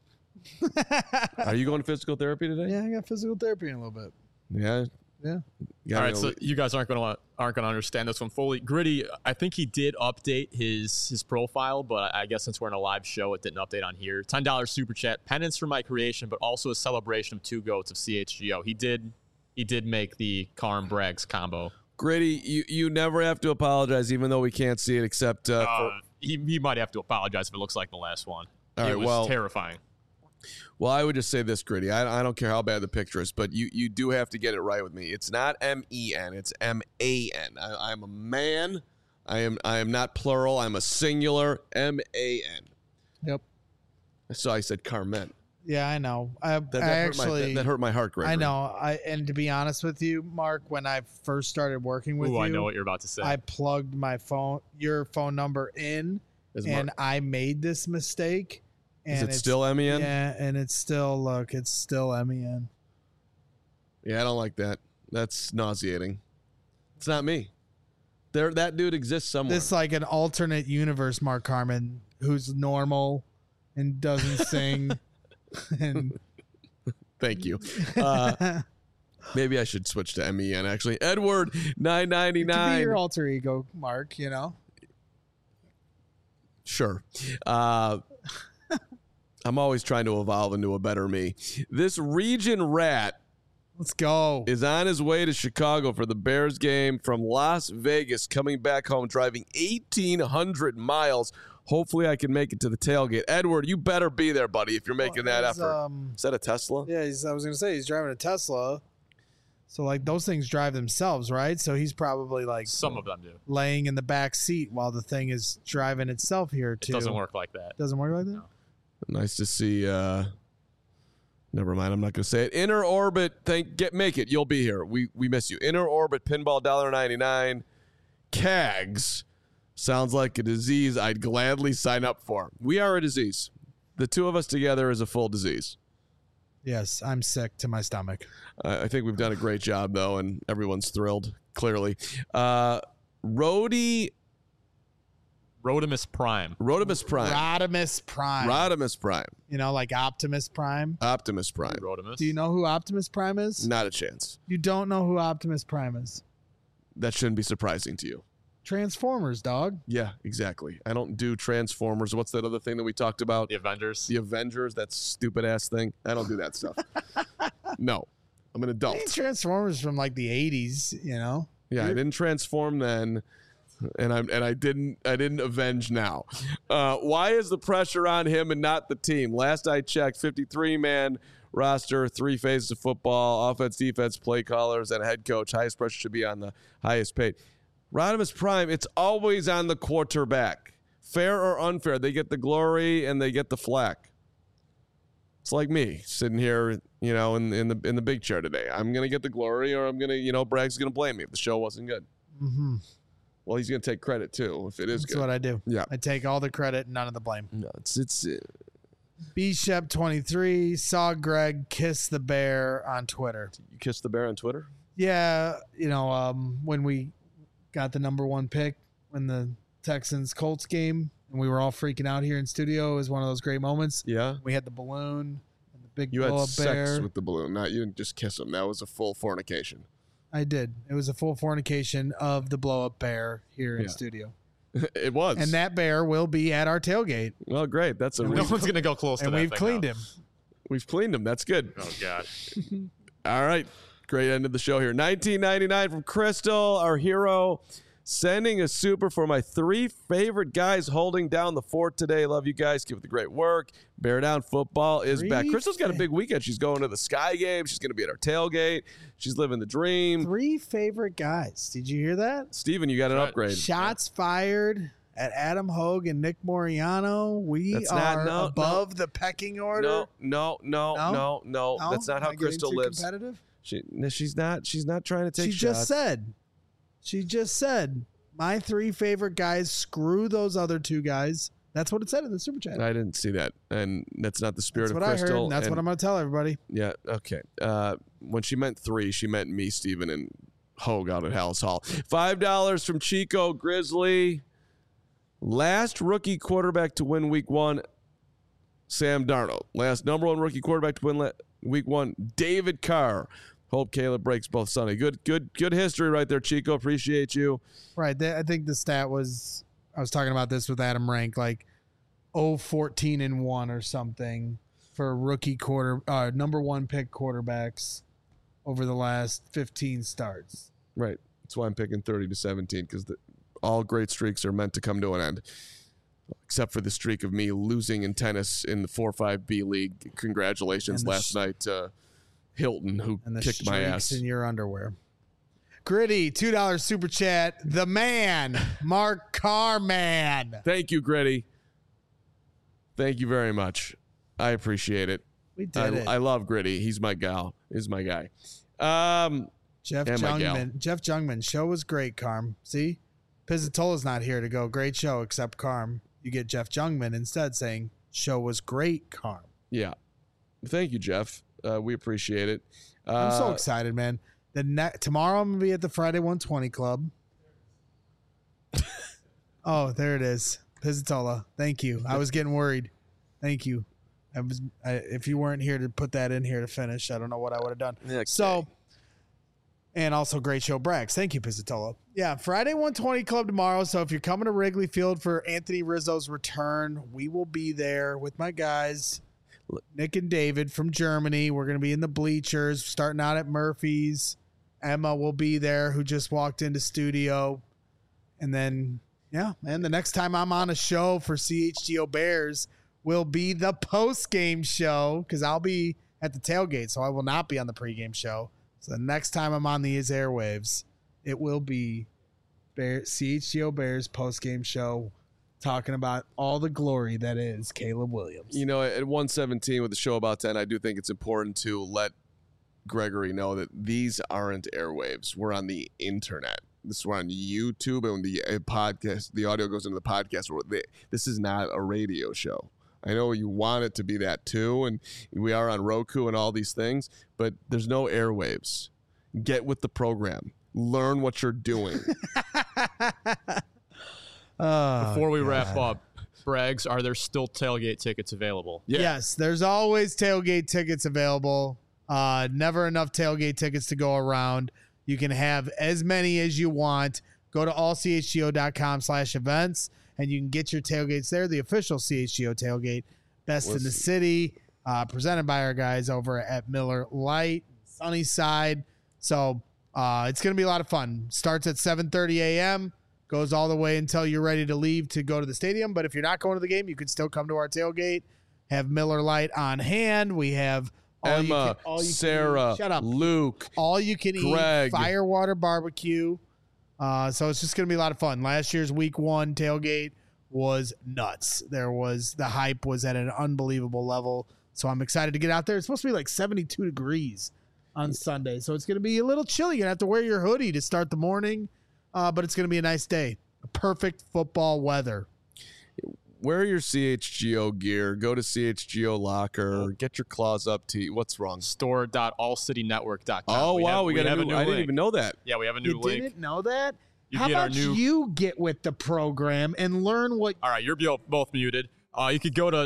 Are you going to physical therapy today? Yeah, I got physical therapy in a little bit. Yeah. Yeah. You All got right, me so a- you guys aren't going to aren't going to understand this one fully. Gritty, I think he did update his his profile, but I guess since we're in a live show, it didn't update on here. ten dollars super chat, penance for my creation, but also a celebration of two goats of C H G O. He did he did make the Carm Braggs combo. Gritty, you, you never have to apologize, even though we can't see it, except uh, Uh, for, he, he might have to apologize if it looks like the last one. All it right, was well- terrifying. well, I would just say this, Gritty. I, I don't care how bad the picture is, but you, you do have to get it right with me. It's not M E N, it's M A N. I, I'm a man. I am I am not plural. I'm a singular. M A N. Yep. So I said Carmen. Yeah, I know. I, That, that I hurt my, actually that, that hurt my heart, Gregory. I know. I and to be honest with you, Mark, when I first started working with Ooh, you, I know what you're about to say. I plugged my phone, your phone number in, Is and Mark- I made this mistake. And Is it it's- still M E N? Yeah, and it's still look, it's still M E N. Yeah, I don't like that. That's nauseating. It's not me. There, that dude exists somewhere. This like an alternate universe, Mark Carmen, who's normal and doesn't sing. And Thank you. Uh, maybe I should switch to M E N. Actually, Edward nine ninety to be nine. your alter ego, Mark. You know. Sure. Uh, I'm always trying to evolve into a better me. This region rat Let's go. is on his way to Chicago for the Bears game from Las Vegas, coming back home, driving eighteen hundred miles. Hopefully, I can make it to the tailgate. Edward, you better be there, buddy, if you're making that He's, effort. Um, Is that a Tesla? yeah, he's, I was gonna say he's driving a Tesla. So like those things drive themselves, right? So he's probably like Some of them do. laying in the back seat while the thing is driving itself here It too. doesn't work like that. Doesn't work like that. Nice to see. Uh, never mind. I'm not going to say it. Inner Orbit. Thank. Get make it. You'll be here. We we miss you. Inner Orbit Pinball one ninety-nine. C A Gs sounds like a disease I'd gladly sign up for. We are a disease. The two of us together is a full disease. Yes, I'm sick to my stomach. I I think we've done a great job though, and everyone's thrilled. Clearly, uh, Rhodey Rodimus Prime. Rodimus Prime. Rodimus Prime. Rodimus Prime. You know, like Optimus Prime. Optimus Prime. Rodimus. Do you know who Optimus Prime is? Not a chance. You don't know who Optimus Prime is. That shouldn't be surprising to you. Transformers, dog. Yeah, exactly. I don't do Transformers. What's that other thing that we talked about? The Avengers. The Avengers, that stupid ass thing. I don't do that stuff. No, I'm an adult. These Transformers from like the eighties, you know. Yeah, I didn't transform then, and I'm and I didn't I didn't avenge now. Uh, why is the pressure on him and not the team? Last I checked, fifty-three man roster, three phases of football, offense, defense, play callers, and a head coach. Highest pressure should be on the highest paid. Rodimus Prime, it's always on the quarterback. Fair or unfair, they get the glory and they get the flack. It's like me sitting here, you know, in in the in the big chair today. I'm gonna get the glory, or I'm gonna, you know, Bragg's gonna blame me if the show wasn't good. Mm-hmm. Well, he's gonna take credit too if it is That's good. what I do. Yeah. I take all the credit, none of the blame. No, it's it's. Uh, B Shep twenty-three saw Greg kiss the bear on Twitter. you kissed the bear on Twitter. Yeah, you know, um, when we got the number one pick when the Texans Colts game, and we were all freaking out here in studio. It was one of those great moments. Yeah. We had the balloon and the big You had blow up sex bear. with the balloon, not you didn't just kiss him. That was a full fornication. I did. It was a full fornication of the blow up bear here in Yeah. studio. It was. And that bear will be at our tailgate. Well, great. That's a No reason. one's gonna go close to And that we've thing cleaned now. him. We've cleaned him. That's good. Oh god. All right. Great end of the show here. nineteen ninety-nine from Crystal, our hero. Sending a super for my three favorite guys holding down the fort today. Love you guys. Keep up the great work. Bear Down football is Three back. Crystal's got a fa- big weekend. She's going to the Sky game. She's going to be at our tailgate. She's living the dream. Three favorite guys. Did you hear that? Steven, you got an Right. upgrade. Shots fired at Adam Hogue and Nick Moriano. We That's not- are no, above the pecking order. No, no, no, No? no, no. No? That's not Am how I getting Crystal too lives. Competitive? She, no, she's not. She's not trying to take She shots. just said. She just said. My three favorite guys. Screw those other two guys. That's what it said in the super chat. I didn't see that, and that's not the spirit That's of what I Crystal. heard. And that's and- what I'm going to tell everybody. Yeah, okay. Uh, when she meant three, she meant me, Steven, and Hogue out at Hallis Hall. Five dollars from Chico Grizzly. Last rookie quarterback to win week one, Sam Darnold. Last number one rookie quarterback to win le- week one, David Carr. Hope Caleb breaks both Sunday. Good, good, good history right there, Chico. Appreciate you. Right. They, I think the stat was, I was talking about this with Adam Rank, like oh fourteen and one or something for rookie quarter, uh, number one pick quarterbacks over the last fifteen starts. Right. That's why I'm picking thirty to seventeen, because all great streaks are meant to come to an end. Except for the streak of me losing in tennis in the four five B League. Congratulations And the last sh- night, uh, Hilton, who And the kicked my ass. streaks in your underwear. Gritty, two dollars super chat. The man, Mark Carman. Thank you, Gritty. Thank you very much. I appreciate it. We did I, it. I love Gritty. He's my gal. He's my guy. Um, Jeff and my gal. Jungman. Jeff Jungman. Show was great, Carm. See? Pizzatola's not here to go, great show, except Carm. You get Jeff Jungman instead saying, show was great, Carm. Yeah. Thank you, Jeff. Uh, we appreciate it. Uh, I'm so excited, man. The ne- Tomorrow I'm going to be at the Friday one twenty Club. Oh, there it is. Pizzatola. Thank you. I was getting worried. Thank you. I was. I, if you weren't here to put that in here to finish, I don't know what I would have done. Okay. So, and also great show, Brax. Thank you, Pizzatola. Yeah, Friday one twenty Club tomorrow. So if you're coming to Wrigley Field for Anthony Rizzo's return, we will be there with my guys, Nick and David from Germany. We're going to be in the bleachers, starting out at Murphy's. Emma will be there, who just walked into studio. And then, yeah, and the next time I'm on a show for C H G O Bears will be the post-game show, because I'll be at the tailgate, so I will not be on the pregame show. So the next time I'm on these airwaves, it will be Bear, C H G O Bears post-game show, talking about all the glory that is Caleb Williams. You know, at one seventeen with the show about ten, I do think it's important to let Gregory know that these aren't airwaves. We're on the internet. This is we're on YouTube, and the uh, podcast, the audio goes into the podcast. Where they, this is not a radio show. I know you want it to be that too, and we are on Roku and all these things, but there's no airwaves. Get with the program. Learn what you're doing. Oh, Before we God. wrap up, Braggs, are there still tailgate tickets available? Yeah. Yes, there's always tailgate tickets available. Uh, never enough tailgate tickets to go around. You can have as many as you want. Go to all c h g o dot com slash events, and you can get your tailgates there. The official C H G O tailgate, best in the Listen. city, uh, presented by our guys over at Miller Lite, Sunnyside. So uh, it's going to be a lot of fun. Starts at seven thirty a.m., goes all the way until you're ready to leave to go to the stadium. But if you're not going to the game, you can still come to our tailgate. Have Miller Lite on hand. We have all you Emma, can, all you can Sarah, eat. Shut up. Luke. All you can Greg. eat firewater barbecue. Uh, so it's just going to be a lot of fun. Last year's week one tailgate was nuts. There was the hype was at an unbelievable level. So I'm excited to get out there. It's supposed to be like seventy-two degrees on Sunday. So it's going to be a little chilly. You're going to have to wear your hoodie to start the morning. Uh, but it's going to be a nice day. Perfect football weather. Wear your C H G O gear. Go to C H G O Locker. Get your claws up tee. What's wrong? store dot all city network dot com. Oh, wow. have- we got a have new, a new I didn't link. even know that. Yeah, we have a new You link. didn't know that? You How get our about new- you get with the program and learn what All right, you're bo- both muted. Uh, you could go to.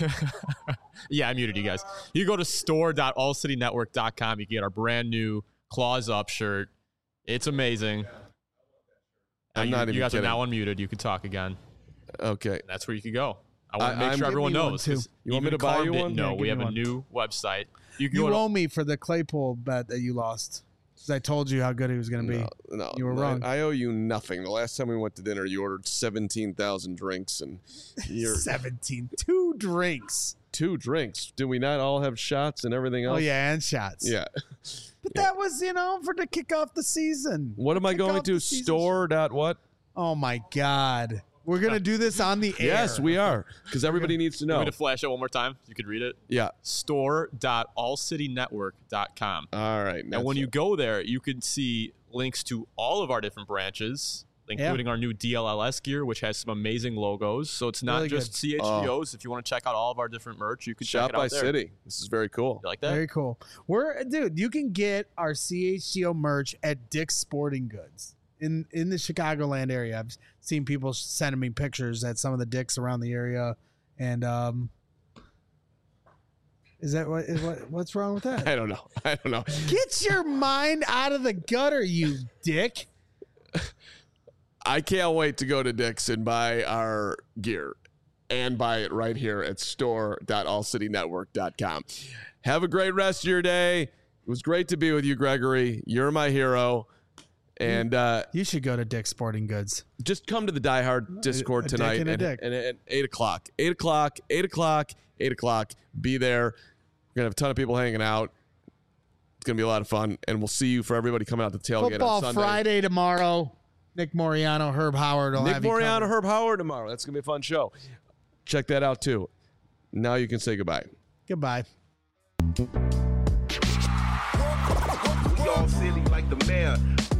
yeah, I muted you guys. You go to store dot all city network dot com. You can get our brand new Claws Up shirt. It's amazing. I'm you, not even You guys kidding. are now unmuted. You can talk again. Okay. That's where you can go. I want to make I'm- sure everyone Give me one, knows. too. 'cause You want me even to buy Carm you didn't one? know. Yeah, we give have me a one. new website. You can You go to- owe me for the Claypool bet that you lost. Because I told you how good he was going to be. No, no, You were no, wrong. I owe you nothing. The last time we went to dinner, you ordered seventeen thousand drinks and you're seventeen. Two drinks. two drinks. Did we not all have shots and everything else? Oh, yeah, and shots. Yeah. But that was, you know, for to kick off the season. What am I Kick going off to? the season. Store dot what? Oh, my God. We're going to do this on the air. Yes, we are. Because everybody needs to Want know. me to flash it one more time? You could read it. Yeah. store dot all city network dot com. All right. And when you go there, you can see links to all of our different branches, including our new D L L S gear, which has some amazing logos. So it's not Really just good. C H G Os. If you want to check out all of our different merch, you can Shop check it out by there. City. This is very cool. You like that? Very cool. We're dude, you can get our C H G O merch at Dick's Sporting Goods in in the Chicagoland area. I've seen people sending me pictures at some of the Dicks around the area, and um, is that what is what what's wrong with that? I don't know. I don't know. Get your mind out of the gutter, you dick. I can't wait to go to Dick's and buy our gear and buy it right here at store dot all city network dot com. Have a great rest of your day. It was great to be with you, Gregory. You're my hero. And uh, You should go to Dick's Sporting Goods. just come to the Die Hard Discord a dick tonight and a and, dick. and at eight o'clock. eight o'clock, eight o'clock, eight o'clock. Be there. We're going to have a ton of people hanging out. It's going to be a lot of fun. And we'll see you for everybody coming out to tailgate Football on Sunday. Friday tomorrow. Nick Moriano, Herb Howard will Nick have you Moriano, covered. Herb Howard tomorrow. That's going to be a fun show. Check that out too. Now you can say goodbye. Goodbye. We all silly like the mayor.